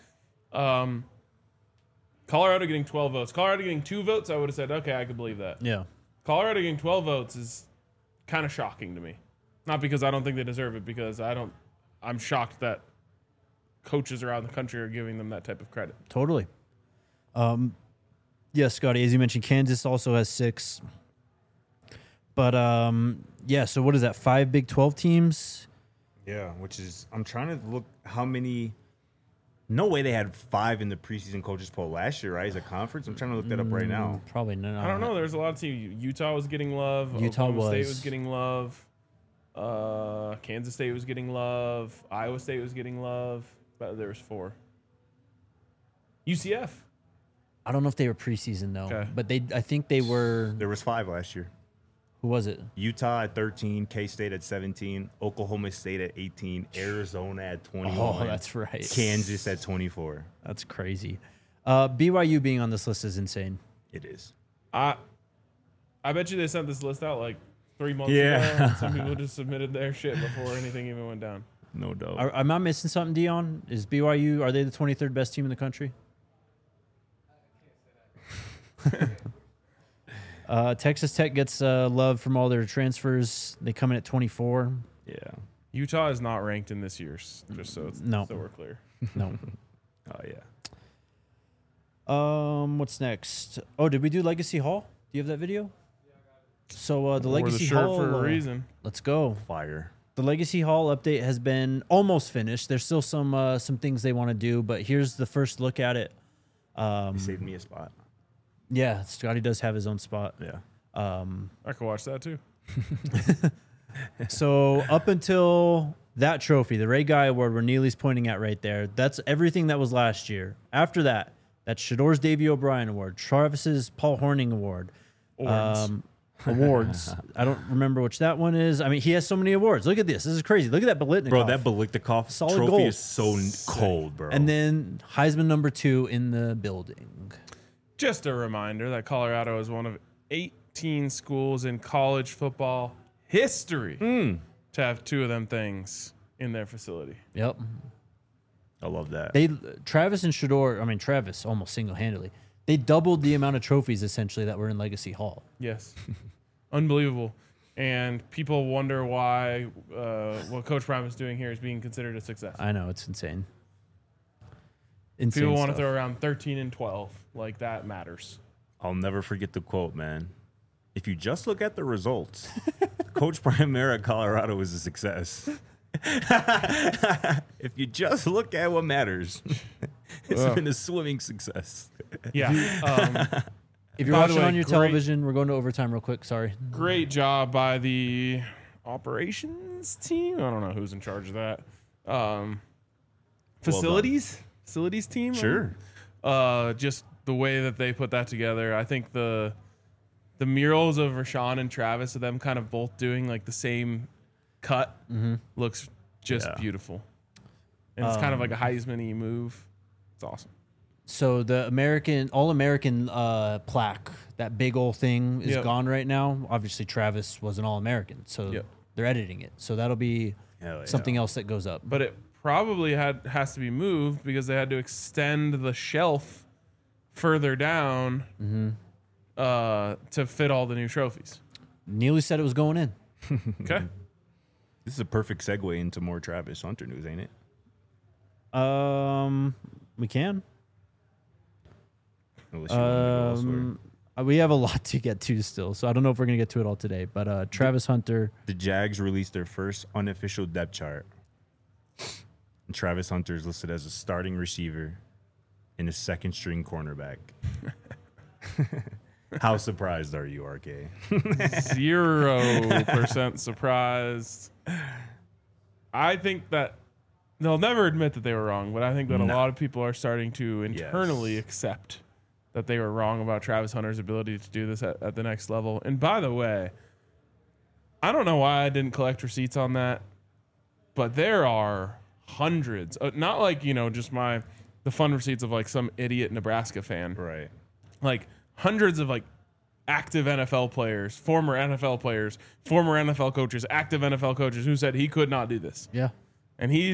Colorado getting 12 votes. Colorado getting 2 votes, I would have said, okay, I could believe that. Yeah. Colorado getting 12 votes is kind of shocking to me. Not because I don't think they deserve it, because I'm shocked that coaches around the country are giving them that type of credit. Totally. Yes, Scotty, as you mentioned, Kansas also has 6. But, yeah, so what is that, 5 Big 12 teams? Yeah, which is, I'm trying to look how many. No way they had 5 in the preseason coaches poll last year, right? As a conference. I'm trying to look that up right now. Probably not. I don't know. There's a lot of teams. Utah was getting love. Utah Oklahoma State was. was getting love. Kansas State was getting love. Iowa State was getting love. But there was 4. UCF. I don't know if they were preseason, though. Okay. But I think they were. There was 5 last year. Who was it? Utah at 13, K-State at 17, Oklahoma State at 18, Arizona at 21. Oh, that's right. Kansas at 24. That's crazy. BYU being on this list is insane. It is. I bet you they sent this list out like 3 months Yeah. ago. And some people just submitted their shit before anything even went down. No doubt. Am I missing something, Dion? Is BYU, are they the 23rd best team in the country? Texas Tech gets love from all their transfers. They come in at 24. Yeah. Utah is not ranked in this year's, just so No. so we're clear. No. Oh, yeah. What's next? Oh, did we do Legacy Hall? Do you have that video? So the Wore Legacy the shirt Hall for a reason. Let's go. Fire. The Legacy Hall update has been almost finished. There's still some things they want to do, but here's the first look at it. He saved me a spot. Yeah, Scotty does have his own spot. Yeah. I could watch that too. So up until that trophy, the Ray Guy Award, where Neely's pointing at right there, that's everything that was last year. After that, that's Shador's Davey O'Brien Award, Travis's Paul Horning Award. Awards. I don't remember which that one is. I mean, he has so many awards. Look at this. This is crazy. Look at that Biletnikoff. Bro, that Biletnikoff Solid trophy gold. is so cold, bro. And then Heisman number 2 in the building. Just a reminder that Colorado is one of 18 schools in college football history to have 2 of them things in their facility. Yep. I love that. Travis and Shador, I mean, Travis almost single-handedly, they doubled the amount of trophies essentially that were in Legacy Hall. Yes. Unbelievable. And people wonder why what Coach Prime is doing here is being considered a success. I know, it's insane. Insane People want to stuff. throw around 13 and 12. Like, that matters. I'll never forget the quote, man. If you just look at the results, Coach Primera at Colorado was a success. If you just look at what matters, it's been a swimming success. Yeah. If you're By the watching way, on your great- television, we're going to overtime real quick. Sorry. Great job by the operations team. I don't know who's in charge of that. Facilities team. Sure. Just the way that they put that together. I think the murals of Rashawn and Travis, of them kind of both doing like the same cut, looks just beautiful. And it's kind of like a Heisman-y move. It's awesome. So the All-American plaque, that big old thing, is Yep. gone right now. Obviously, Travis was an All-American, so Yep. they're editing it. So that'll be Hell yeah. something else that goes up. But it probably has to be moved because they had to extend the shelf further down to fit all the new trophies. Neely said it was going in. Okay. This is a perfect segue into more Travis Hunter news, ain't it? We can. Unless you want to go elsewhere. We have a lot to get to still, so I don't know if we're gonna get to it all today. But Travis Hunter, The Jags released their first unofficial depth chart. And Travis Hunter is listed as a starting receiver and a second string cornerback. How surprised are you, RK? 0% surprised. I think that they'll never admit that they were wrong, but I think that a lot of people are starting to internally accept that they were wrong about Travis Hunter's ability to do this at the next level. And by the way, I don't know why I didn't collect receipts on that, but there are hundreds, not like, just the fun receipts of like some idiot Nebraska fan. Right. Like hundreds of like active NFL players, former NFL players, former NFL coaches, active NFL coaches who said he could not do this. yeah, And we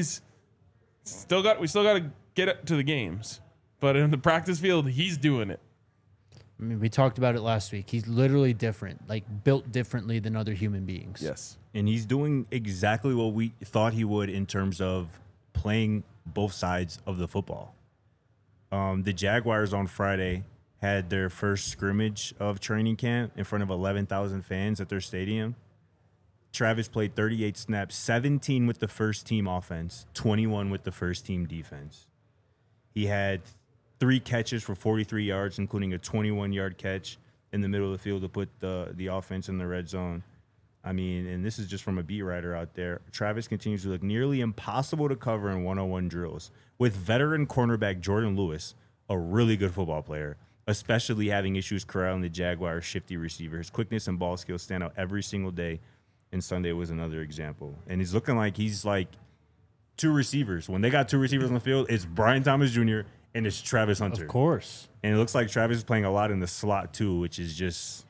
still got to get it to the games. But in the practice field, he's doing it. I mean, we talked about it last week. He's literally different, like built differently than other human beings. Yes. And he's doing exactly what we thought he would in terms of playing both sides of the football. The Jaguars on Friday had their first scrimmage of training camp in front of 11,000 fans at their stadium. Travis played 38 snaps, 17 with the first team offense, 21 with the first team defense. He had 3 catches for 43 yards, including a 21-yard catch in the middle of the field to put the offense in the red zone. I mean, and this is just from a beat writer out there. Travis continues to look nearly impossible to cover in one-on-one drills, with veteran cornerback Jordan Lewis, a really good football player, especially having issues corralling the Jaguars' shifty receiver. His quickness and ball skills stand out every single day, and Sunday was another example. And he's looking like he's like 2 receivers. When they got 2 receivers on the field, it's Brian Thomas Jr. and it's Travis Hunter. Of course. And it looks like Travis is playing a lot in the slot too, which is just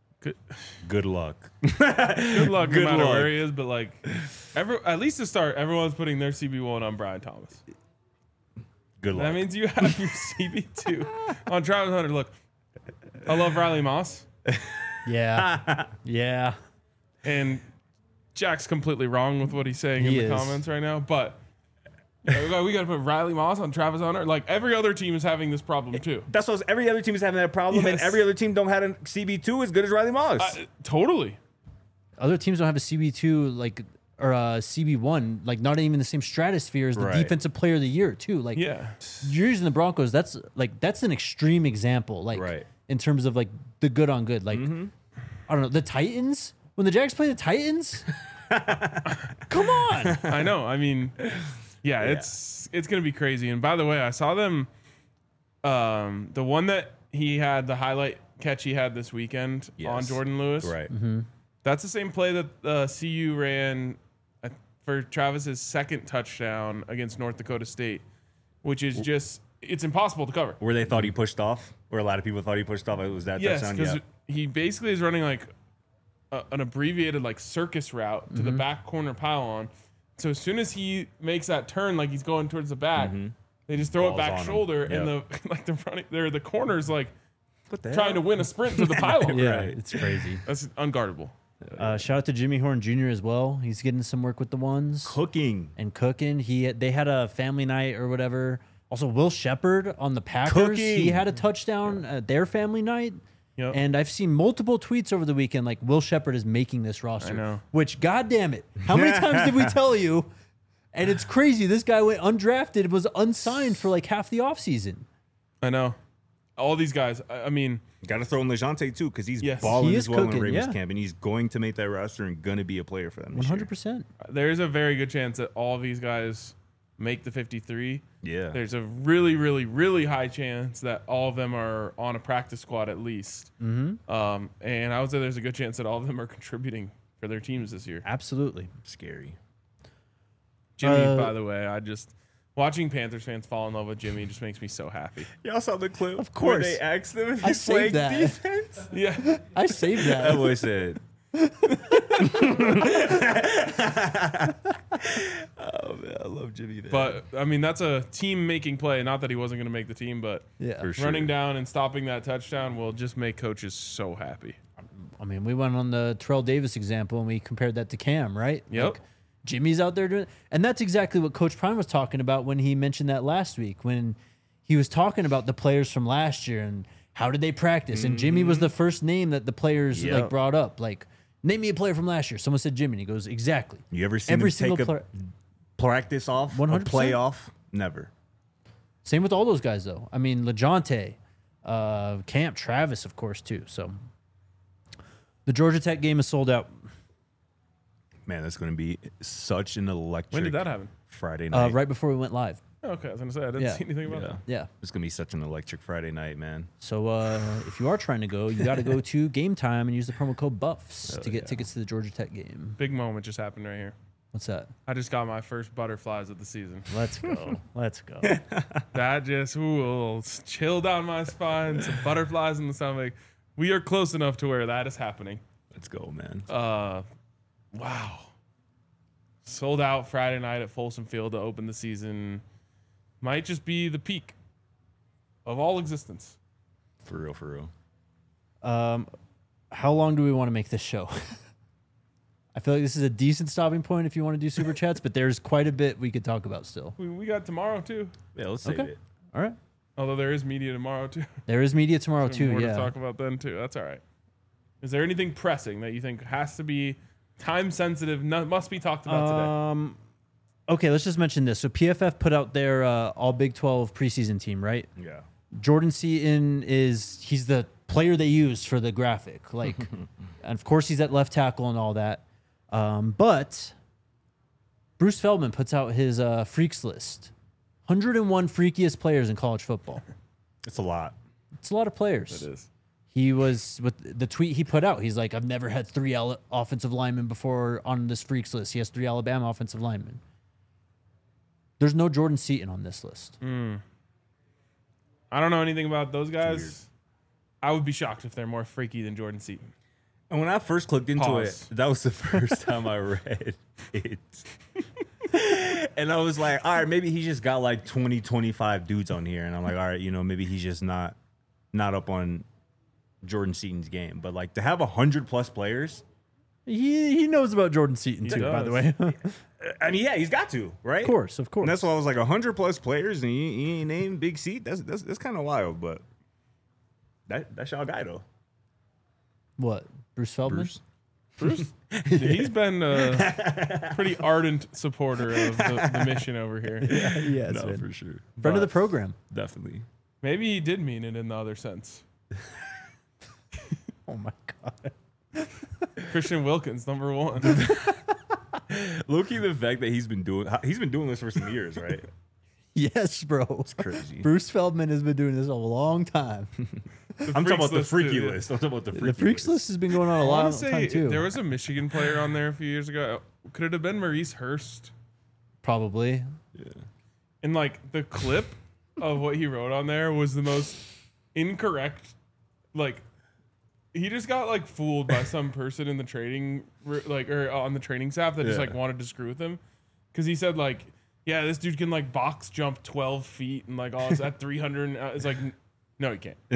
good luck. Good luck no Good matter luck. where he is. But like, at least to start, everyone's putting their CB1 on Brian Thomas. Good luck. That means you have your CB2 on Travis Hunter. Look, I love Riley Moss. Yeah. Yeah. And Jack's completely wrong with what he's saying He in the is. comments right now. But we got to put Riley Moss on Travis Hunter. Like, every other team is having this problem too. That's what every other team is having that problem, Yes. and every other team don't have a CB2 as good as Riley Moss. Totally. Other teams don't have a CB2 or a CB1, like not even the same stratosphere as the Right. defensive player of the year too. Like Yeah. you're using the Broncos. That's an extreme example. Like Right. in terms of like the good on good. Like I don't know, the Titans, when the Jags play the Titans, come on. I know. I mean, yeah, it's going to be crazy. And by the way, I saw them, the one that he had, the highlight catch he had this weekend on Jordan Lewis. Right. That's the same play that CU ran for Travis's second touchdown against North Dakota State, which is just, it's impossible to cover. Where they thought he pushed off, where a lot of people thought he pushed off, it was that Yes, touchdown. because Yeah. he basically is running like an abbreviated like circus route to the back corner pylon. So as soon as he makes that turn, like he's going towards the back, they just throw Balls it back on him. shoulder, and Yep. the corner's like What the trying to win a sprint to the pylon. Yeah, it's crazy. That's unguardable. Shout out to Jimmy Horn Jr. as well. He's getting some work with the ones Cooking. and cooking. They had a family night or whatever. Also, Will Shepard on the Packers, Cooking. he had a touchdown at their family night. Yep. And I've seen multiple tweets over the weekend like Will Shepard is making this roster. I know. Which, goddamn it, how many times did we tell you? And it's crazy. This guy went undrafted, was unsigned for like half the offseason. I know. All these guys. I mean, Got to throw in LeJontay too, because he's Yes. balling He as is well cooking, in Ravens yeah. camp, and he's going to make that roster and going to be a player for them. This year. 100%. there's a very good chance that all these guys make the 53. Yeah. There's a really, really, really high chance that all of them are on a practice squad at least. Mm-hmm. And I would say there's a good chance that all of them are contributing for their teams this year. Absolutely. Scary. Jimmy, by the way, watching Panthers fans fall in love with Jimmy just makes me so happy. Y'all saw the clip? Of course. Where they asked him if I he's saved playing that. defense? Yeah. I saved That that. boy said. Oh man, I love Jimmy. Man. But, I mean, that's a team-making play. Not that he wasn't going to make the team, but Yeah. For sure. running down and stopping that touchdown will just make coaches so happy. I mean, we went on the Terrell Davis example and we compared that to Cam, right? Yep. Like, Jimmy's out there doing, and that's exactly what Coach Prime was talking about when he mentioned that last week when he was talking about the players from last year and how did they practice. And Jimmy was the first name that the players like Yep. brought up. Like, name me a player from last year. Someone said Jimmy. And he goes, exactly. You ever seen Every him single take a player. practice off, 100%. a play off? Never. Same with all those guys, though. I mean, LeJontay, Camp, Travis, of course, too. So the Georgia Tech game is sold out. Man, that's going to be such an electric. When did that happen? Friday night. Right before we went live. Okay, I was going to say, I didn't Yeah. see anything about Yeah. that. Yeah. It's going to be such an electric Friday night, man. So if you are trying to go, you got to go to Game Time and use the promo code BUFFS to get tickets to the Georgia Tech game. Big moment just happened right here. What's that? I just got my first butterflies of the season. Let's go. Let's go. That just chill down my spine. Some butterflies in the stomach. We are close enough to where that is happening. Let's go, man. Wow. Sold out Friday night at Folsom Field to open the season. Might just be the peak of all existence. For real, for real. How long do we want to make this show? I feel like this is a decent stopping point if you want to do super chats, but there's quite a bit we could talk about still. We got tomorrow too. Yeah, let's save it. All right. Although there is media tomorrow too. There is media tomorrow too. More to Yeah. talk about then too. That's all right. Is there anything pressing that you think has to be time sensitive? Must be talked about today. Okay, let's just mention this. So PFF put out their all Big 12 preseason team, right? Yeah. Jordan Seaton he's the player they used for the graphic. Like, and of course he's at left tackle and all that. But Bruce Feldman puts out his freaks list. 101 freakiest players in college football. It's a lot. It's a lot of players. It is. He was with the tweet he put out. He's like, I've never had 3 offensive linemen before on this freaks list. He has 3 Alabama offensive linemen. There's no Jordan Seaton on this list. I don't know anything about those weird. guys. I would be shocked if they're more freaky than Jordan Seaton. And when I first clicked into Pause. it, that was the first time I read it. And I was like, all right, maybe he just got like 20, 25 dudes on here. And I'm like, all right, maybe he's just not up on Jordan Seaton's game. But like to have 100+ players, He knows about Jordan Seaton too, by the way. I mean, yeah, he's got to, right? Of course. And that's why I was like 100+ players and he ain't named Big Seat. That's kind of wild, but that's y'all guy though. What? Bruce Feldman? Bruce. He's been a pretty ardent supporter of the mission over here. Yeah, No, for sure. friend of the program. Definitely. Maybe he did mean it in the other sense. Oh my god. Christian Wilkins, number 1. Low-key, the fact that he's been doing this for some years, right? Yes, bro. It's crazy. Bruce Feldman has been doing this a long time. I'm talking about the list, freaky too. list. I'm talking about the freaky The freaks list has been going on a I long want to time say too. there was a Michigan player on there a few years ago. Could it have been Maurice Hurst? Probably. And like the clip of what he wrote on there was the most incorrect. Like he just got like fooled by some person in the trading or on the training staff that just Yeah. like wanted to screw with him because he said like, yeah, this dude can like box jump 12 feet and like it's at 300. It's like, no, he can't.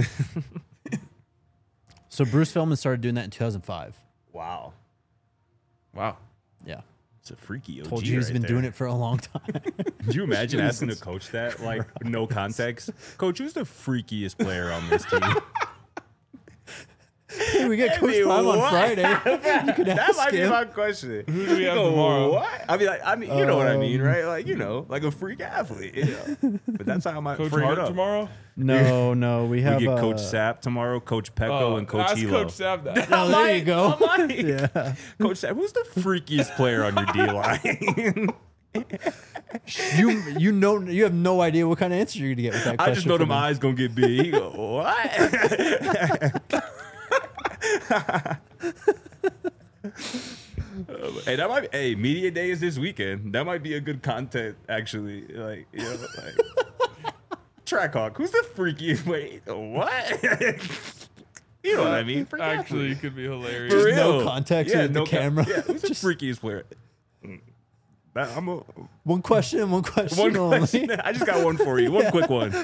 So Bruce Feldman started doing that in 2005. Wow. Wow. Yeah. It's a freaky OG. Told you he's been doing it for a long time. Could you imagine asking a coach that, like, no context? Coach, who's the freakiest player on this team? Hey, we get Coach Prime on Friday. You could That ask might be him. my question. Who do we have Go, tomorrow? What? I mean, you know what I mean, right? Like, like a freak athlete. But that's how I might Coach frame Hart it up. tomorrow? No, we have We get Coach Sapp tomorrow, Coach Pecco, and Coach ask Hilo. Coach Sapp that. Oh, there you go. Yeah. Coach Sapp, who's the freakiest player on your D line? You have no idea what kind of answer you're gonna get with that question. I just know from them him. eyes gonna get big. He go, what? Hey, that might be, hey, media day is this weekend. That might be a good content, actually. Like, Track Hawk, who's the freakiest? Wait, what? You know what I mean? Freak Actually, athlete. it could be hilarious. For Just no real. context with the camera. Yeah, who's the freakiest player? One question One only. question. I just got one for you. One quick one.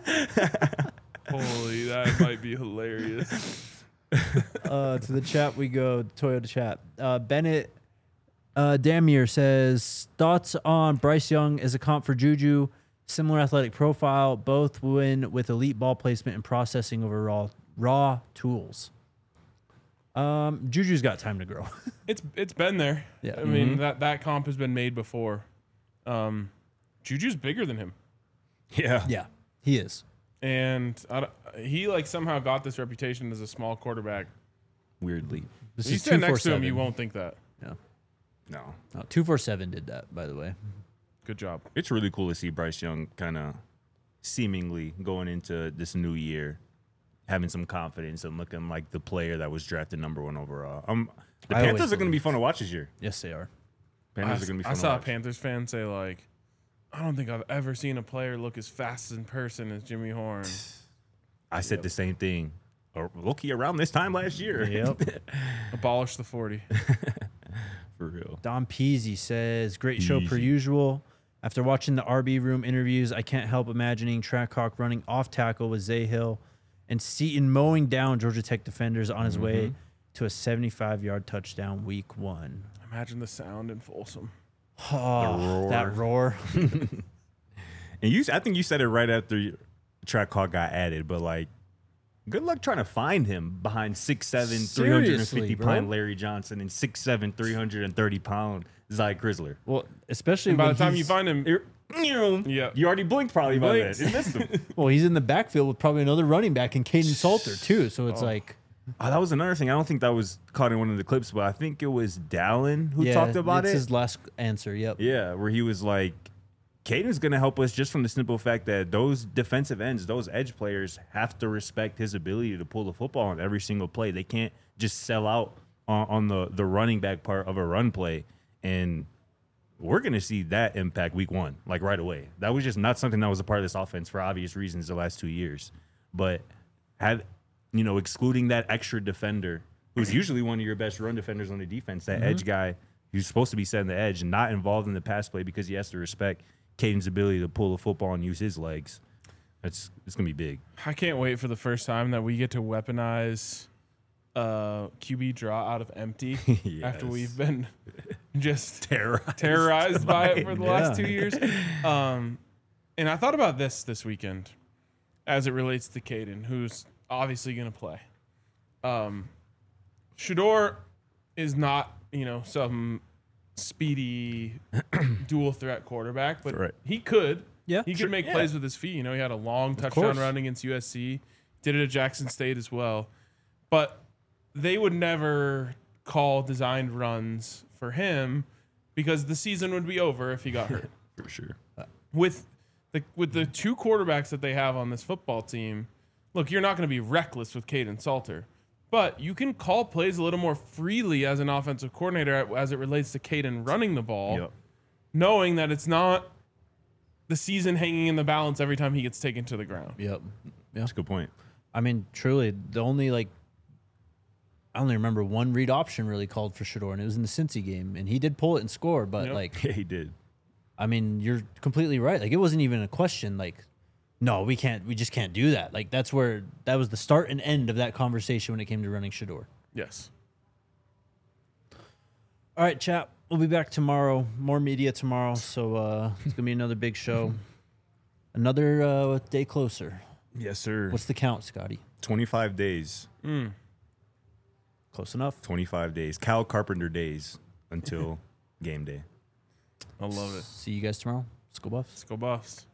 Holy, that might be hilarious. To the chat we go. Toyota chat. Bennett Damier says thoughts on Bryce Young as a comp for Juju. Similar athletic profile. Both win with elite ball placement and processing over raw tools. Juju's got time to grow. It's been there. Yeah. I mean, that comp has been made before. Juju's bigger than him. Yeah. Yeah, he is. And he like somehow got this reputation as a small quarterback. Weirdly. This You is stand next to him, 247. you won't think that. Yeah. No. 247 did that, by the way. Good job. It's really cool to see Bryce Young kind of seemingly going into this new year, having some confidence and looking like the player that was drafted #1 overall. The I always Panthers are going to be believe. fun to watch this year. Yes, they are. Panthers are going to be fun I to saw a watch. Panthers fan say like, I don't think I've ever seen a player look as fast in person as Jimmy Horn. I said the same thing. Low-key around this time last year. Yep. Abolish the 40. For real. Don Peasy says, great show per Peasy. usual. After watching the RB room interviews, I can't help imagining Trackhawk running off tackle with Zay Hill and Seaton mowing down Georgia Tech defenders on his way to a 75-yard touchdown week 1. Imagine the sound in Folsom. Oh, roar. that roar. And I think you said it right after Trackhawk got added, but like, good luck trying to find him behind 6'7", Seriously, 350-pound bro. Larry Johnson and 6'7", 330-pound Zy Chrysler. Well, especially And by when the time you he's- find him, Yeah. You already blinked probably by then. You missed him. well, he's in the backfield with probably another running back in Caden Salter too. So it's like, Oh, that was another thing. I don't think that was caught in one of the clips, but I think it was Dallin who yeah, talked about it's it. his last answer. Yep. Yeah, where he was like, Caden's going to help us just from the simple fact that those defensive ends, those edge players have to respect his ability to pull the football on every single play. They can't just sell out on the running back part of a run play. And we're going to see that impact week 1, like right away. That was just not something that was a part of this offense for obvious reasons the last 2 years. But excluding that extra defender, who's usually one of your best run defenders on the defense, that edge guy who's supposed to be setting the edge and not involved in the pass play because he has to respect Caden's ability to pull the football and use his legs. It's going to be big. I can't wait for the first time that we get to weaponize QB draw out of empty after we've been just terrorized by it for the last 2 years. And I thought about this weekend as it relates to Caden, who's obviously going to play. Shador is not, some speedy dual threat quarterback, but Right. he could. Yeah, He sure, could make plays with his feet. He had a long touchdown course. run against USC. Did it at Jackson State as well. But they would never call designed runs for him because the season would be over if he got hurt. For sure. With the two quarterbacks that they have on this football team, look, you're not going to be reckless with Caden Salter, but you can call plays a little more freely as an offensive coordinator as it relates to Caden running the ball, knowing that it's not the season hanging in the balance every time he gets taken to the ground. Yep. Yeah. That's a good point. I mean, truly, the only I only remember one read option really called for Shador, and it was in the Cincy game, and he did pull it and score. But Yeah, he did. I mean, you're completely right. Like, it wasn't even a question. Like, no, we just can't do that. Like, that was the start and end of that conversation when it came to running Shador. Yes. All right, chap. we'll be back tomorrow. More media tomorrow. So it's gonna be another big show. Another day closer. Yes, sir. What's the count, Scotty? 25 days. Close enough. 25 days. Kyle Carpenter days until game day. I love it. See you guys tomorrow. Let's go Buffs. Let's go Buffs.